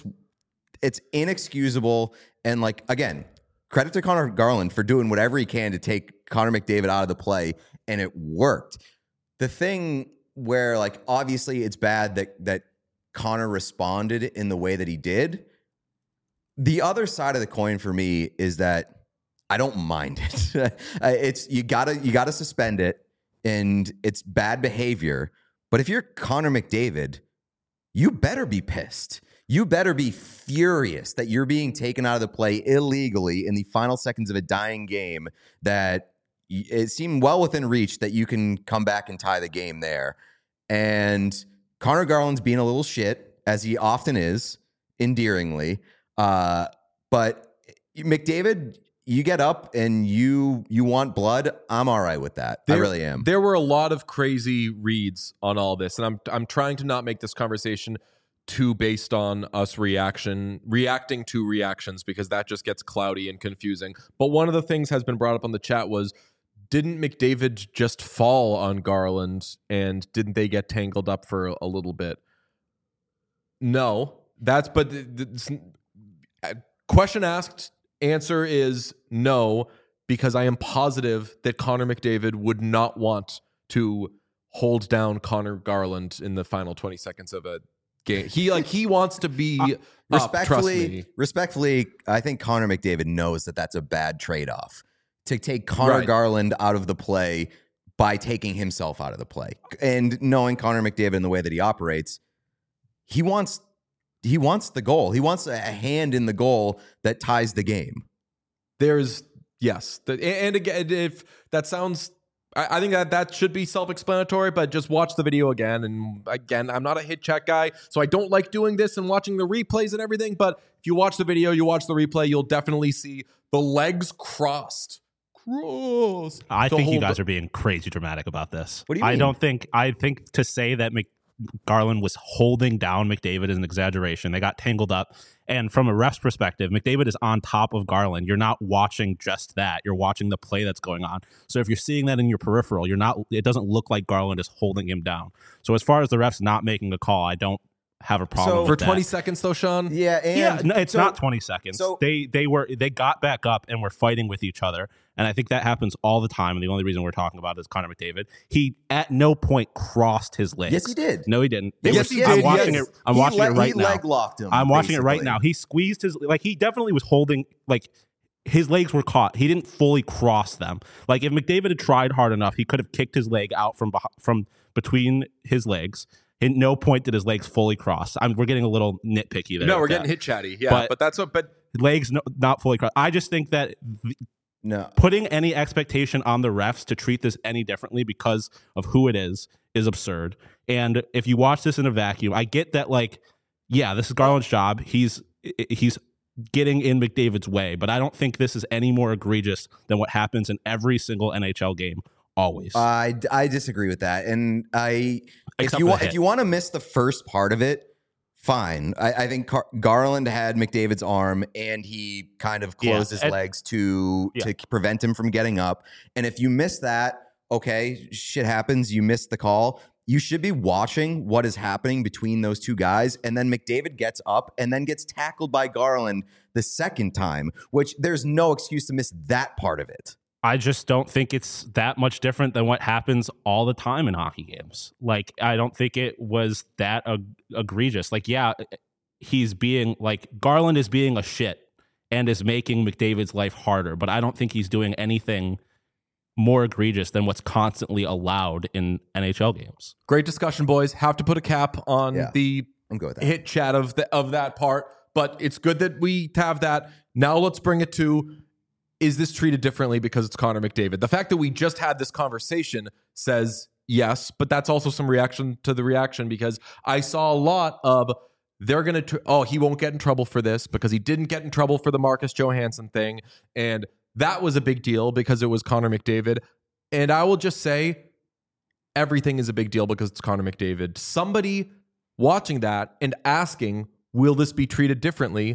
inexcusable. And again, credit to Connor Garland for doing whatever he can to take Connor McDavid out of the play, and it worked. The thing where obviously it's bad that Connor responded in the way that he did. The other side of the coin for me is that I don't mind it. It's you gotta suspend it, and it's bad behavior. But if you're Connor McDavid, you better be pissed. You better be furious that you're being taken out of the play illegally in the final seconds of a dying game that it seemed well within reach that you can come back and tie the game there. And Connor Garland's being a little shit, as he often is, endearingly. But McDavid, you get up and you want blood. I'm all right with that. I really am. There were a lot of crazy reads on all this, and I'm trying to not make this conversation too based on us reacting to reactions, because that just gets cloudy and confusing. But one of the things has been brought up on the chat was, didn't McDavid just fall on Garland, and didn't they get tangled up for a little bit? No, question asked, answer is no, because I am positive that Connor McDavid would not want to hold down Connor Garland in the final 20 seconds of a game. He wants to be respectfully, I think Connor McDavid knows that that's a bad trade-off to take Connor Garland out of the play by taking himself out of the play. And knowing Connor McDavid in the way that he operates, he wants the goal. He wants a hand in the goal that ties the game. Yes. And again, if that sounds, I think that should be self-explanatory, but just watch the video again. And again, I'm not a hit check guy, so I don't like doing this and watching the replays and everything. But if you watch the video, you watch the replay, you'll definitely see the legs crossed. I think you guys are being crazy dramatic about this. What do you mean? I think to say that Garland was holding down McDavid is an exaggeration. They got tangled up. And from a ref's perspective, McDavid is on top of Garland. You're not watching just that. You're watching the play that's going on. So if you're seeing that in your peripheral, it doesn't look like Garland is holding him down. So as far as the refs not making a call, I don't have a problem So- with For that. 20 seconds, though, Sean? Yeah, and Yeah, no, it's so- not 20 seconds. so- They got back up and were fighting with each other, and I think that happens all the time. And the only reason we're talking about it is Connor McDavid. He at no point crossed his legs. Yes, he did. No, he didn't. Yes, he did. I'm watching Yes. it. I'm watching it right he now. leg locked him. I'm watching it right basically. now. He squeezed his he definitely was holding his legs were caught. He didn't fully cross them. Like if McDavid had tried hard enough, he could have kicked his leg out from between his legs. At no point did his legs fully cross. We're getting a little nitpicky there. No, we're with getting that. hit chatty. Yeah, but that's what. But Legs not fully crossed. I just think that No. putting any expectation on the refs to treat this any differently because of who it is absurd. And if you watch this in a vacuum, I get that. This is Garland's job. He's getting in McDavid's way, but I don't think this is any more egregious than what happens in every single NHL game. Always. I disagree with that, and if Except you for want the if hit. you want to miss the first part of it, fine. I think Garland had McDavid's arm, and he kind of closed his and- legs to prevent him from getting up. And if you miss that, okay, shit happens. You missed the call. You should be watching what is happening between those two guys, and then McDavid gets up and then gets tackled by Garland the second time, which there's no excuse to miss that part of it. I just don't think it's that much different than what happens all the time in hockey games. I don't think it was that egregious. He's being Garland is being a shit and is making McDavid's life harder, but I don't think he's doing anything more egregious than what's constantly allowed in NHL games. great discussion, boys. Have to put a cap on Yeah. the I'm good with that. hit chat of that part, but it's good that we have that. Now let's bring it to: is this treated differently because it's Connor McDavid? The fact that we just had this conversation says yes, but that's also some reaction to the reaction, because I saw a lot of they're going to, he won't get in trouble for this because he didn't get in trouble for the Marcus Johansson thing. And that was a big deal because it was Connor McDavid. And I will just say everything is a big deal because it's Connor McDavid. Somebody watching that and asking, will this be treated differently?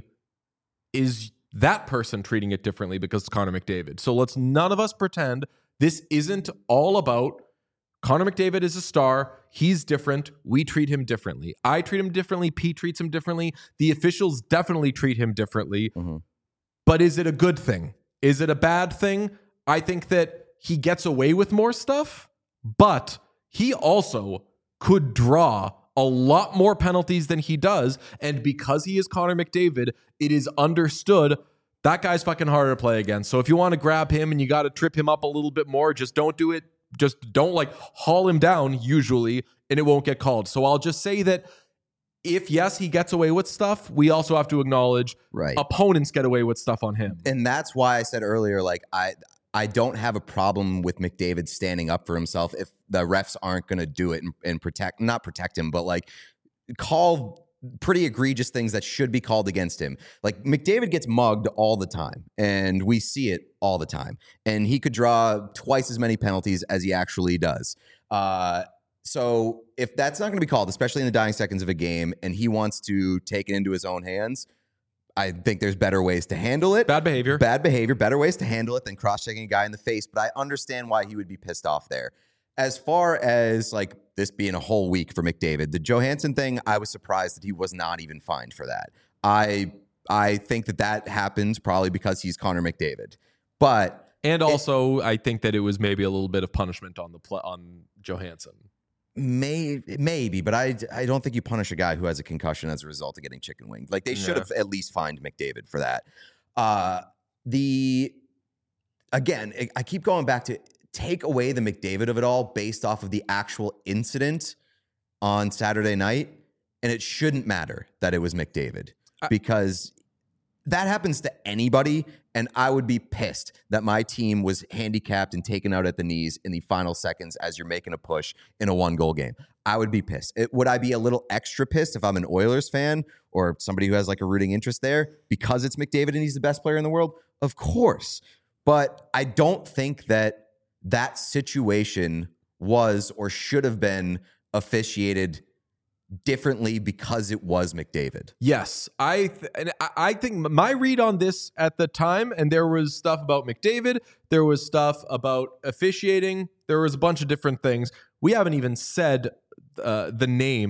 Is that person treating it differently because it's Connor McDavid? So let's none of us pretend this isn't all about Connor McDavid is a star. He's different. We treat him differently. I treat him differently. Pete treats him differently. The officials definitely treat him differently. Mm-hmm. But is it a good thing? Is it a bad thing? I think that he gets away with more stuff, but he also could draw a lot more penalties than he does. And because he is Connor McDavid, it is understood that guy's fucking harder to play against. So if you want to grab him and you got to trip him up a little bit more, just don't do it. Just don't haul him down usually, and it won't get called. So I'll just say that if, yes, he gets away with stuff, we also have to acknowledge Right. opponents get away with stuff on him. And that's why I said earlier, I don't have a problem with McDavid standing up for himself if the refs aren't going to do it and not protect him, but call pretty egregious things that should be called against him. McDavid gets mugged all the time, and we see it all the time. And he could draw twice as many penalties as he actually does. So if that's not going to be called, especially in the dying seconds of a game, and he wants to take it into his own hands, I think there's better ways to handle it. Bad behavior. Better ways to handle it than cross-checking a guy in the face. But I understand why he would be pissed off there. As far as this being a whole week for McDavid, the Johansson thing, I was surprised that he was not even fined for that. I think that happens probably because he's Connor McDavid. But And also, I think that it was maybe a little bit of punishment on on Johansson. maybe, but I don't think you punish a guy who has a concussion as a result of getting chicken winged. They should have at least fined McDavid for that. Again, I keep going back to take away the McDavid of it all based off of the actual incident on Saturday night, and it shouldn't matter that it was McDavid because that happens to anybody, and I would be pissed that my team was handicapped and taken out at the knees in the final seconds as you're making a push in a 1-goal game. I would be pissed. Would I be a little extra pissed if I'm an Oilers fan or somebody who has a rooting interest there because it's McDavid and he's the best player in the world? Of course. But I don't think that situation was or should have been officiated differently because it was McDavid. Yes, I think my read on this at the time, and there was stuff about McDavid, there was stuff about officiating, there was a bunch of different things. We haven't even said the name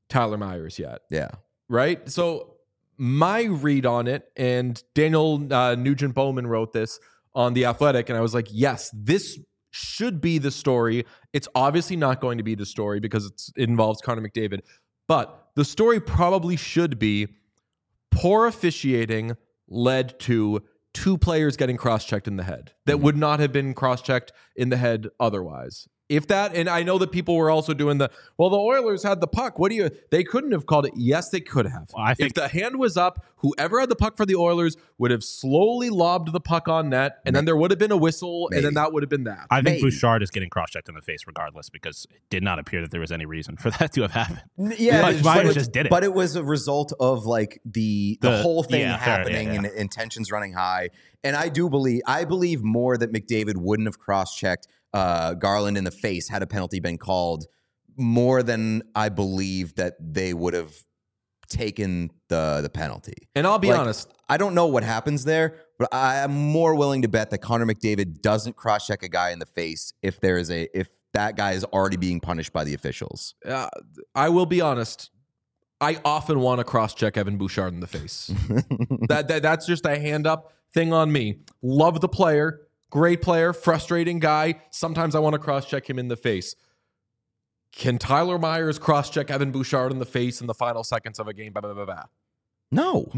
Tyler Myers yet. Yeah. Right? So my read on it, and Daniel Nugent Bowman wrote this on The Athletic, and I was like, yes, this should be the story. It's obviously not going to be the story because it involves Connor McDavid, but the story probably should be poor officiating led to 2 players getting cross-checked in the head that would not have been cross-checked in the head otherwise. If that, and I know that people were also doing the Oilers had the puck. They couldn't have called it. Yes, they could have. Well, I think if the hand was up, whoever had the puck for the Oilers would have slowly lobbed the puck on net, and then there would have been a whistle, and then that would have been that. I think Bouchard is getting cross-checked in the face regardless because it did not appear that there was any reason for that to have happened. Yeah, Myers just did it. But it was a result of like the whole thing happening and tensions running high. And I believe more that McDavid wouldn't have cross-checked Garland in the face had a penalty been called, more than I believe that they would have taken the penalty. And I'll be honest, I don't know what happens there, but I am more willing to bet that Connor McDavid doesn't cross-check a guy in the face if that guy is already being punished by the officials. I will be honest. I often want to cross-check Evan Bouchard in the face. That's just a hand-up thing on me. Love the player. Great player, frustrating guy. Sometimes I want to cross-check him in the face. Can Tyler Myers cross-check Evan Bouchard in the face in the final seconds of a game? No.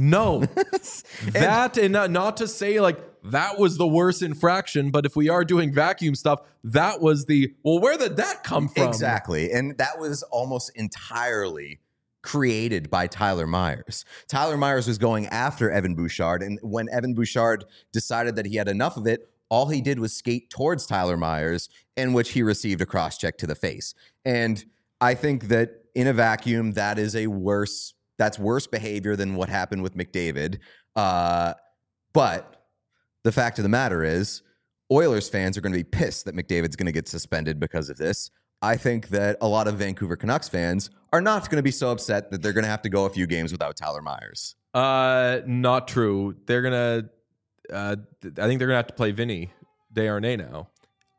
That, and not to say like that was the worst infraction, but if we are doing vacuum stuff, that was where did that come from? Exactly. And that was almost entirely created by Tyler Myers. Tyler Myers was going after Evan Bouchard, and when Evan Bouchard decided that he had enough of it, all he did was skate towards Tyler Myers, in which he received a cross-check to the face. And I think that in a vacuum, that's worse behavior than what happened with McDavid. But the fact of the matter is, Oilers fans are going to be pissed that McDavid's going to get suspended because of this. I think that a lot of Vancouver Canucks fans are not going to be so upset that they're going to have to go a few games without Tyler Myers. Not true. They're going to I think they're gonna have to play Vinny Desharnais now.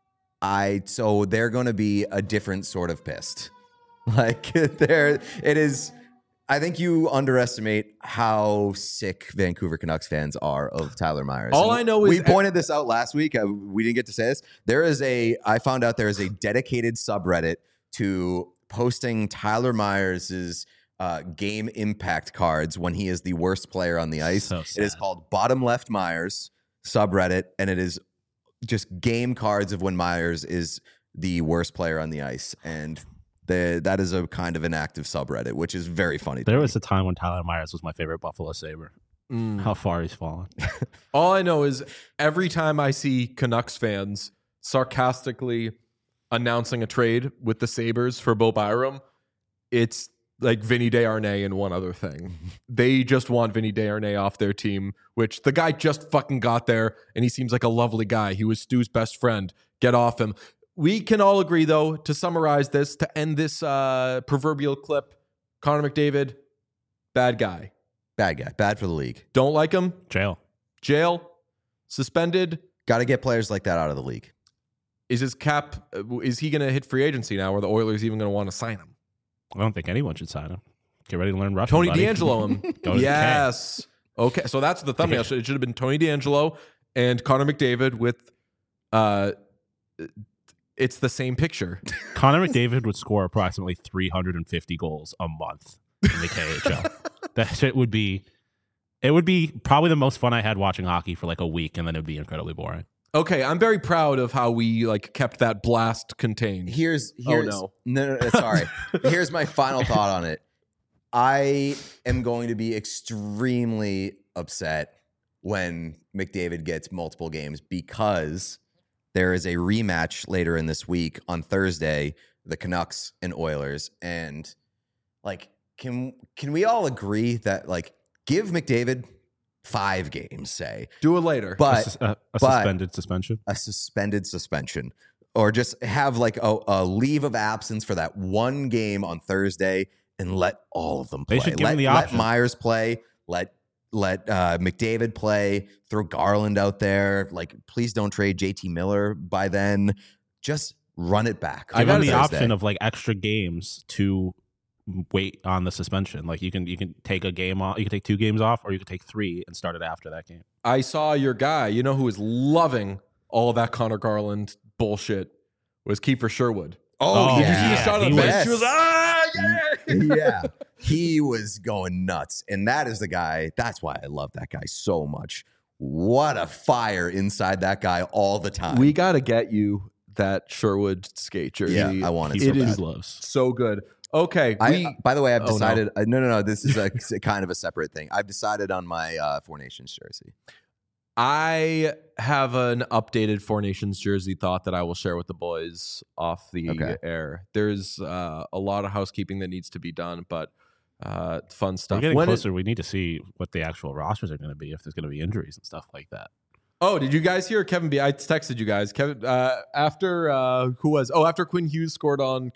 So they're gonna be a different sort of pissed. Like it is. I think you underestimate how sick Vancouver Canucks fans are of Tyler Myers. All I know is we pointed this out last week. We didn't get to say this. I found out there is a dedicated subreddit to posting Tyler Myers's game impact cards when he is the worst player on the ice. So it is called Bottom Left Myers subreddit, and it is just game cards of when Myers is the worst player on the ice. And that is a kind of an active subreddit, which is very funny. There was a time when Tyler Myers was my favorite Buffalo Sabre. How far he's fallen. All I know is every time I see Canucks fans sarcastically announcing a trade with the Sabres for Bo Byram, it's like Vinny Desharnais and one other thing. They just want Vinny Desharnais off their team, which the guy just fucking got there, and he seems like a lovely guy. He was Stu's best friend. Get off him. We can all agree, though, to summarize this, to end this proverbial clip, Connor McDavid, bad guy. Bad guy. Bad for the league. Don't like him? Jail. Suspended. Got to get players like that out of the league. Is his cap, is he going to hit free agency now, or the Oilers even going to want to sign him? I don't think anyone should sign him. Get ready to learn Russian, Tony buddy. DeAngelo him. Yes. Okay, so that's the thumbnail. It should have been Tony DeAngelo and Connor McDavid with it's the same picture. Connor McDavid would score approximately 350 goals a month in the KHL. That shit would be probably the most fun I had watching hockey for like a week, and then it would be incredibly boring. Okay, I'm very proud of how we kept that blast contained. Here's no, sorry. Here's my final thought on it. I am going to be extremely upset when McDavid gets multiple games because there is a rematch later in this week on Thursday, the Canucks and Oilers, and can we all agree that give McDavid 5 games, say. Do it later. But a suspended suspension. A suspended suspension. Or just have a leave of absence for that one game on Thursday and let all of them play. They should give him the option. Let Myers play. Let McDavid play. Throw Garland out there. Please don't trade JT Miller by then. Just run it back. Give him the option of extra games to wait on the suspension. Like you can take a game off, you can take 2 games off, or you can take 3 and start it after that game. I saw your guy, who is loving all of that Connor Garland bullshit, was Kiefer Sherwood. Oh, Did you yeah. see the shot on the was- bench? He was yeah. Yeah, he was going nuts. And that is the guy. That's why I love that guy so much. What a fire inside that guy all the time. We got to get you that Sherwood skate jersey. Yeah, I want it. It so is bad. Loves. so good. Okay. By the way, I've Oh, no. decided. No. This is a kind of a separate thing. I've decided on my Four Nations jersey. I have an updated Four Nations jersey thought that I will share with the boys off the Okay. air. There's a lot of housekeeping that needs to be done, but fun stuff. We're getting When closer. We need to see what the actual rosters are going to be, if there's going to be injuries and stuff like that. Oh, did you guys hear Kevin B? I texted you guys. Kevin after Quinn Hughes scored on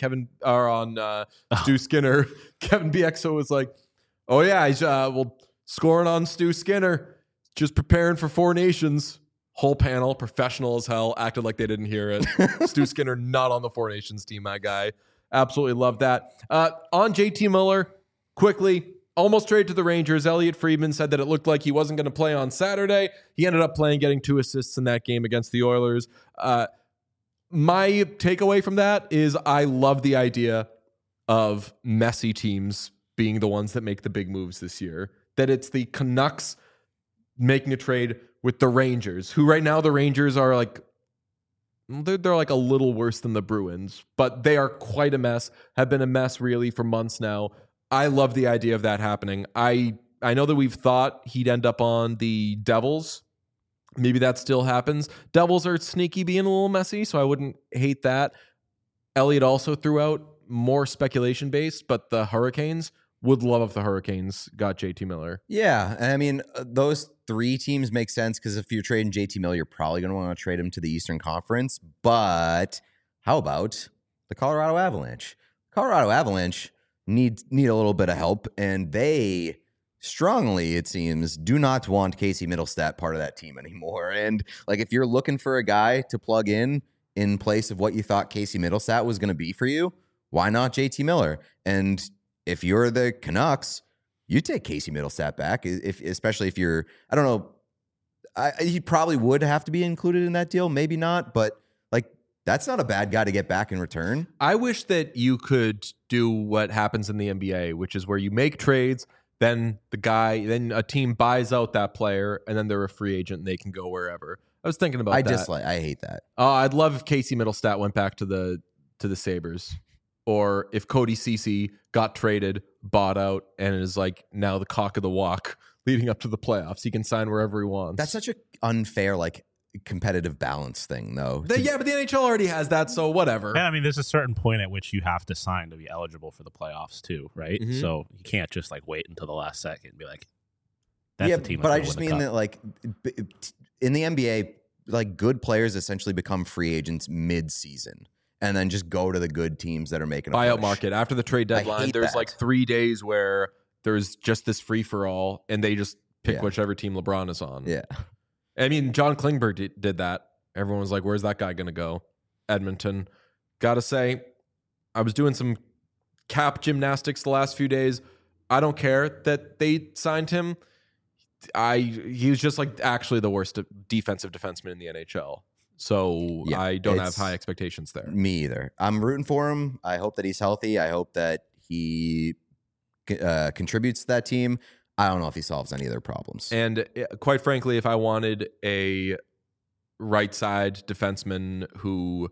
Stu Skinner. Kevin BXO was like, "Oh yeah, he's scoring on Stu Skinner. Just preparing for Four Nations." Whole panel, professional as hell, acted like they didn't hear it. Stu Skinner not on the Four Nations team, my guy. Absolutely love that. On JT Miller, quickly. Almost traded to the Rangers. Elliot Friedman said that it looked like he wasn't going to play on Saturday. He ended up playing, getting 2 assists in that game against the Oilers. My takeaway from that is I love the idea of messy teams being the ones that make the big moves this year. That it's the Canucks making a trade with the Rangers, who right now the Rangers are like, they're like a little worse than the Bruins, but they are quite a mess, have been a mess really for months now. I love the idea of that happening. I know that we've thought he'd end up on the Devils. Maybe that still happens. Devils are sneaky being a little messy, so I wouldn't hate that. Elliot also threw out more speculation based, but the Hurricanes would love if the Hurricanes got JT Miller. Yeah, and I mean those 3 teams make sense because if you're trading JT Miller, you're probably going to want to trade him to the Eastern Conference. But how about the Colorado Avalanche? Colorado Avalanche need a little bit of help, and they strongly, it seems, do not want Casey Middlestat part of that team anymore. And like, if you're looking for a guy to plug in place of what you thought Casey Middlestat was going to be for you, why not JT Miller? And if you're the Canucks, you take Casey Middlestat back, especially if you're, I don't know, he probably would have to be included in that deal, maybe not, but like, that's not a bad guy to get back in return. I wish that you could do what happens in the NBA, which is where you make trades, then a team buys out that player, and then they're a free agent and they can go wherever. I was thinking about that. I hate that. I'd love if Casey Middlestat went back to the Sabres, or if Cody Ceci got traded, bought out, and is like now the cock of the walk leading up to the playoffs. He can sign wherever he wants. That's such an unfair, like, competitive balance thing, though. Yeah, but the NHL already has that, so whatever. And I mean, there's a certain point at which you have to sign to be eligible for the playoffs too, right? Mhm. So you can't just like wait until the last second and be like, "That's yeah, the team." but I that's just gonna win mean the that, like, in the NBA, like, good players essentially become free agents mid-season and then just go to the good teams that are making a Buyout push. market after the trade I deadline. hate There's that. like 3 days where there's just this free for all, and they just pick Yeah. whichever team LeBron is on. Yeah. I mean, John Klingberg did that. Everyone was like, "Where's that guy going to go?" Edmonton. Gotta say, I was doing some cap gymnastics the last few days. I don't care that they signed him. He was just like actually the worst defensive defenseman in the NHL. So Yeah, I don't have it's- high expectations there. Me either. I'm rooting for him. I hope that he's healthy. I hope that he contributes to that team. I don't know if he solves any of their problems. And quite frankly, if I wanted a right side defenseman who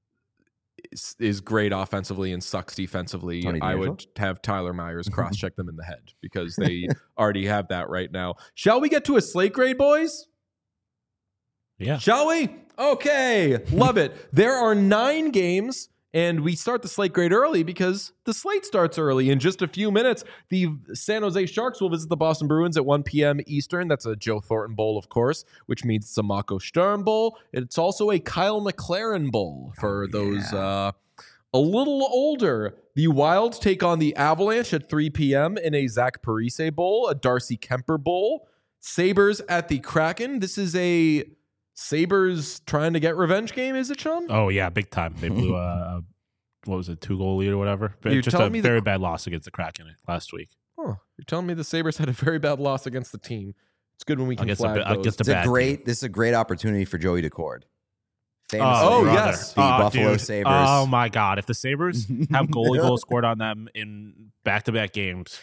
is great offensively and sucks defensively, Tony I DeAngelo? would have Tyler Myers cross-check them in the head because they already have that right now. Shall we get to a slate grade, boys? Yeah. Shall we? Okay. Love it. There are 9 games, and we start the slate grade early because the slate starts early. In just a few minutes, the San Jose Sharks will visit the Boston Bruins at 1 p.m. Eastern. That's a Joe Thornton Bowl, of course, which means it's a Mako Sturm Bowl. It's also a Kyle McLaren Bowl for those a little older. The Wild take on the Avalanche at 3 p.m. in a Zach Parise Bowl, a Darcy Kemper Bowl. Sabres at the Kraken. This is a Sabres trying to get revenge game, is it, Sean? Oh yeah, big time. They blew a what was it, 2-goal lead or whatever. You're Just telling a me very bad loss against the Kraken last week. Huh. You're telling me the Sabres had a very bad loss against the team. It's good when we can Against flag those. against a It's a bad great. team. This is a great opportunity for Joey Decord. Oh, brother. yes. The Buffalo dude. Sabres. Oh my God! If the Sabres have goals scored on them in back-to-back games,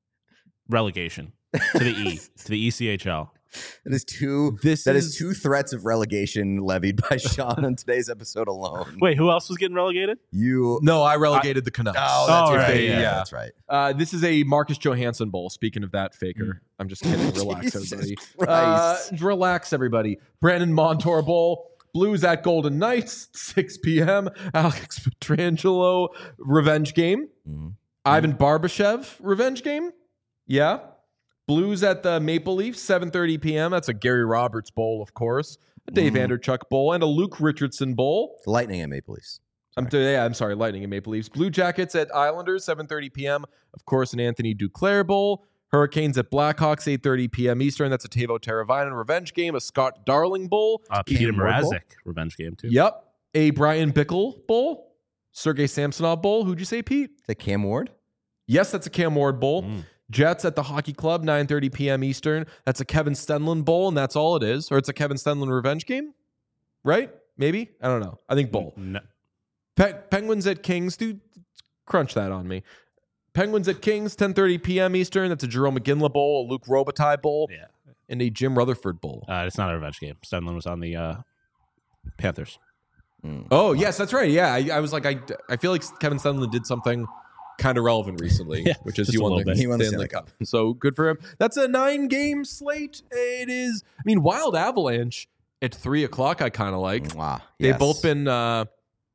relegation to the ECHL. That is two. That is two threats of relegation levied by Sean on today's episode alone. Wait, who else was getting relegated? You. No, I relegated the Canucks. Oh, that's Oh, right. right, Yeah, yeah. that's right. This is a Marcus Johansson bowl. Speaking of that, faker. I'm just kidding. Relax, Jesus everybody. Christ. Relax, everybody. Brandon Montour Bowl. Blues at Golden Knights, 6 p.m. Alex Petrangelo revenge game. Mhm. Ivan Barbashev revenge game. Yeah. Blues at the Maple Leafs, 7:30 p.m. That's a Gary Roberts Bowl, of course. A Dave Anderchuk Bowl and a Luke Richardson Bowl. Lightning and Maple Leafs. I'm sorry, Lightning and Maple Leafs. Blue Jackets at Islanders, 7:30 p.m. Of course, an Anthony Duclair Bowl. Hurricanes at Blackhawks, 8:30 p.m. Eastern. That's a Teuvo Teravainen revenge game. A Scott Darling Bowl. Peter Ward Bowl? Mrazek revenge game too. Yep. A Brian Bickle Bowl. Sergei Samsonov Bowl. Who'd you say, Pete? The Cam Ward. Yes, that's a Cam Ward Bowl. Jets at the Hockey Club, 9:30 p.m. Eastern. That's a Kevin Stenlund Bowl, and that's all it is. Or it's a Kevin Stenlund revenge game, right? Maybe? I don't know. I think bowl. No. Penguins at Kings. Dude, crunch that on me. Penguins at Kings, 10:30 p.m. Eastern. That's a Jerome McGinley Bowl, a Luke Robitaille Bowl, Yeah. and a Jim Rutherford Bowl. It's not a revenge game. Stenlund was on the Panthers. Oh, yes, that's right. Yeah, I was like, I feel like Kevin Stenlund did something kind of relevant recently, Yeah, which is just he a won little the bit. He won the Stanley Stanley Cup. So good for him. That's a 9-game slate. It is. I mean, Wild Avalanche at 3:00. I kind of like. Mwah. They've Yes.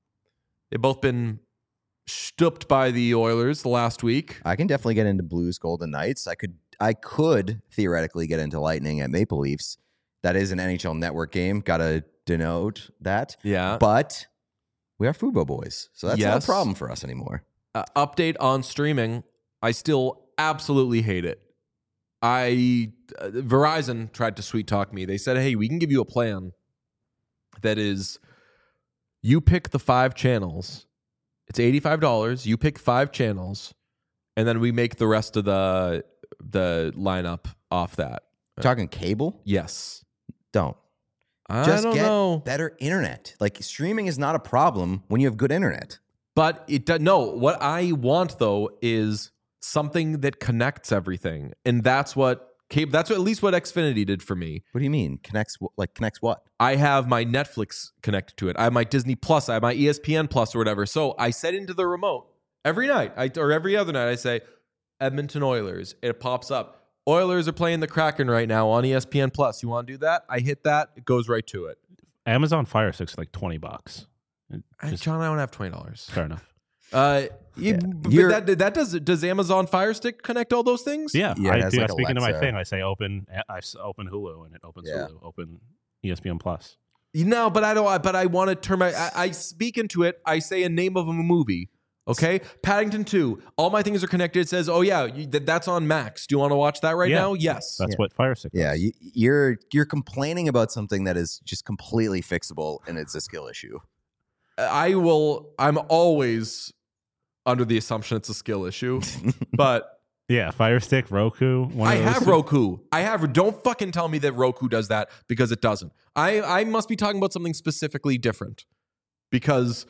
both been stooped by the Oilers the last week. I can definitely get into Blues Golden Knights. I could theoretically get into Lightning at Maple Leafs. That is an NHL Network game. Got to denote that. Yeah. But we are Fubo boys, so that's not Yes. a problem for us anymore. Update on streaming. I still absolutely hate it. Verizon tried to sweet talk me. They said, "Hey, we can give you a plan that is, you pick the 5 channels. It's $85. You pick 5 channels, and then we make the rest of the lineup off that." Talking cable? Yes. Don't. I Just don't get know. better internet. Like streaming is not a problem when you have good internet. But it does. No, what I want though is something that connects everything, and that's what cable. That's at least what Xfinity did for me. What do you mean? Connects what? I have my Netflix connected to it. I have my Disney Plus. I have my ESPN Plus or whatever. So I set into the remote every night, or every other night. I say Edmonton Oilers. It pops up. Oilers are playing the Kraken right now on ESPN Plus. You want to do that? I hit that. It goes right to it. Amazon Fire Stick's like $20. John, I don't have $20. Fair enough. But does Amazon Fire Stick connect all those things? Yeah, Yeah, it I has do. like I speak into my Alexa. thing. I say open Hulu, and it opens Yeah. Hulu. Open ESPN Plus. No, but I don't. But I want to turn my. I speak into it. I say a name of a movie. Okay, Paddington 2. All my things are connected. It says, "Oh yeah, that's on Max. Do you want to watch that right Yeah. now?" Yes. That's what Fire Stick. Yeah, does. you're complaining about something that is just completely fixable, and it's a skill issue. I will. I'm always under the assumption it's a skill issue, but Yeah, Fire Stick, Roku. One I of those. have Roku. I have. Don't fucking tell me that Roku does that because it doesn't. I must be talking about something specifically different because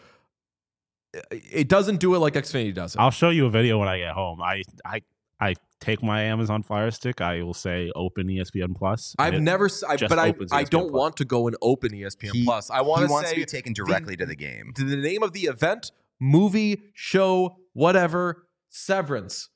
it doesn't do it like Xfinity does it. I'll show you a video when I get home. I take my Amazon Fire Stick. I will say open ESPN Plus. and I've it never, just but I opens I ESPN don't Plus. want to go and open ESPN Plus. I want he to wants say to be taken directly to the game. the name of the event, movie, show, whatever. Severance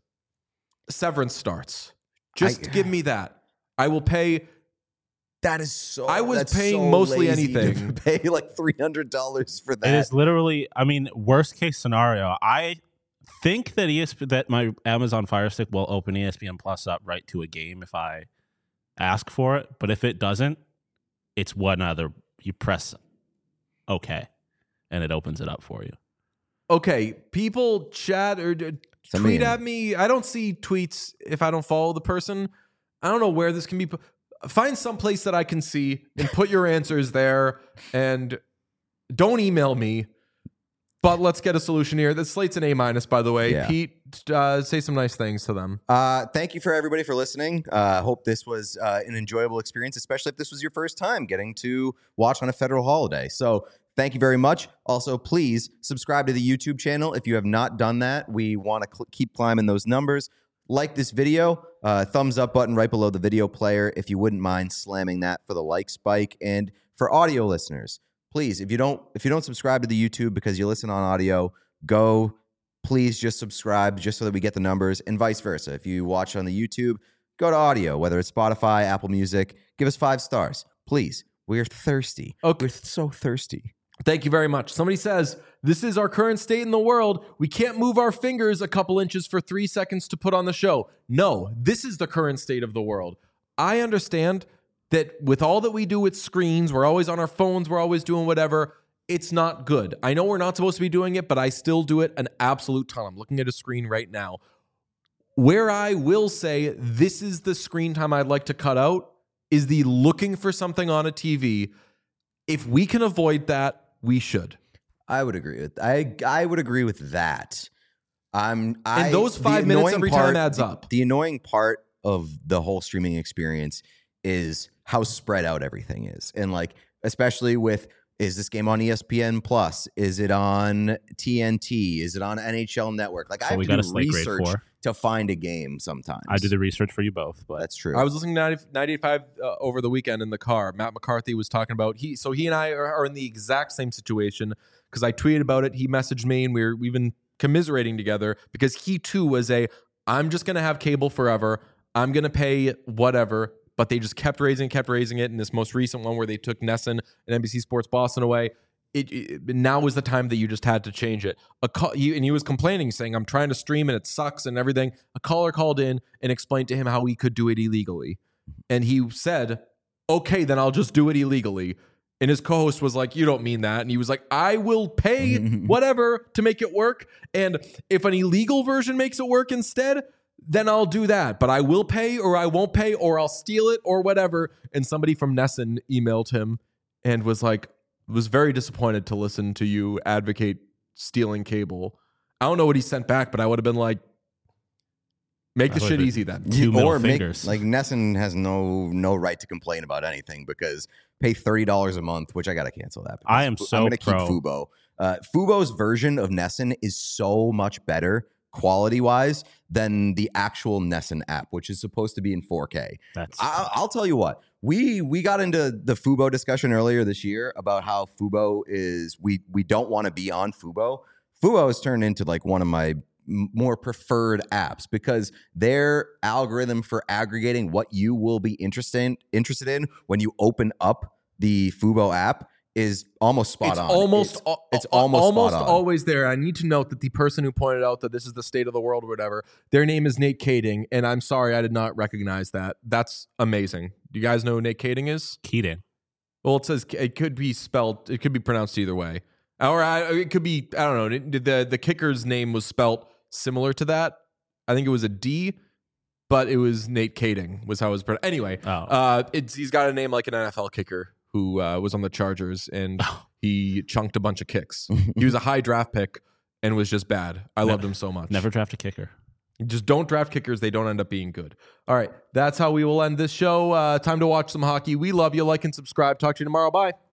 starts. Just give me that. I will pay. That is so. I was that's paying so mostly lazy to anything. Pay like $300 for It that. is literally. I mean, worst case scenario. I think that that my Amazon Fire Stick will open ESPN Plus up right to a game if I ask for it. But if it doesn't, it's one other. You press OK, and it opens it up for you. Okay, people chat or tweet at me. I don't see tweets if I don't follow the person. I don't know where this can be. Find some place that I can see and put your answers there. And don't email me. But let's get a solution here. The slate's an A-, by the way. Yeah. Pete, say some nice things to them. Thank you for everybody for listening. Hope this was an enjoyable experience, especially if this was your first time getting to watch on a federal holiday. So thank you very much. Also, please subscribe to the YouTube channel if you have not done that. We want to keep climbing those numbers. Like this video, thumbs up button right below the video player if you wouldn't mind slamming that for the like spike. And for audio listeners, please, if you don't subscribe to the YouTube because you listen on audio, please just subscribe just so that we get the numbers, and vice versa. If you watch on the YouTube, go to audio, whether it's Spotify, Apple Music, give us 5 stars. Please. We're thirsty. Okay. We're so thirsty. Thank you very much. Somebody says, this is our current state in the world. We can't move our fingers a couple inches for 3 seconds to put on the show. No, this is the current state of the world. I understand that with all that we do with screens, we're always on our phones, we're always doing whatever. It's not good. I know we're not supposed to be doing it, but I still do it an absolute ton. I'm looking at a screen right now. Where I will say this is the screen time I'd like to cut out is the looking for something on a TV. If we can avoid that, we should. I would agree with I would agree with that. And those 5 minutes every time adds up. The annoying part of the whole streaming experience is how spread out everything is. And like, especially with, is this game on ESPN Plus? Is it on TNT? Is it on NHL Network? Like, I have to do research to find a game sometimes. I do the research for you both, but that's true. I was listening to 95 over the weekend in the car. Matt McCarthy was talking about, he and I are in the exact same situation because I tweeted about it. He messaged me and we've been commiserating together because he too was I'm just going to have cable forever. I'm going to pay whatever. But they just kept raising it. In this most recent one where they took NESN and NBC Sports Boston away, now was the time that you just had to change it. And he was complaining, saying, I'm trying to stream and it sucks and everything. A caller called in and explained to him how he could do it illegally. And he said, okay, then I'll just do it illegally. And his co-host was like, you don't mean that. And he was like, I will pay whatever to make it work. And if an illegal version makes it work instead, then I'll do that. But I will pay or I won't pay or I'll steal it or whatever. And somebody from NESN emailed him and was very disappointed to listen to you advocate stealing cable. I don't know what he sent back, but I would have been like, make the shit easy then. Or fingers. Like NESN has no right to complain about anything because pay $30 a month, which I got to cancel that. I am so I'm going to keep Fubo. Fubo's version of NESN is so much better quality-wise than the actual NESN app, which is supposed to be in 4K. I'll tell you what. We got into the Fubo discussion earlier this year about how Fubo is, we don't want to be on Fubo. Fubo has turned into like one of my more preferred apps because their algorithm for aggregating what you will be interested in when you open up the Fubo app is almost spot on. It's almost always there. I need to note that the person who pointed out that this is the state of the world or whatever, their name is Nate Kading, and I'm sorry I did not recognize that. That's amazing. Do you guys know who Nate Kading is? Keating. Well, it says it could be pronounced either way. Or it could be, I don't know, the kicker's name was spelt similar to that. I think it was a D, but it was Nate Kading was how it was pronounced. Anyway, he's got a name like an NFL kicker who was on the Chargers, and he chunked a bunch of kicks. He was a high draft pick and was just bad. I loved him so much. Never draft a kicker. Just don't draft kickers. They don't end up being good. All right, that's how we will end this show. Time to watch some hockey. We love you. Like and subscribe. Talk to you tomorrow. Bye.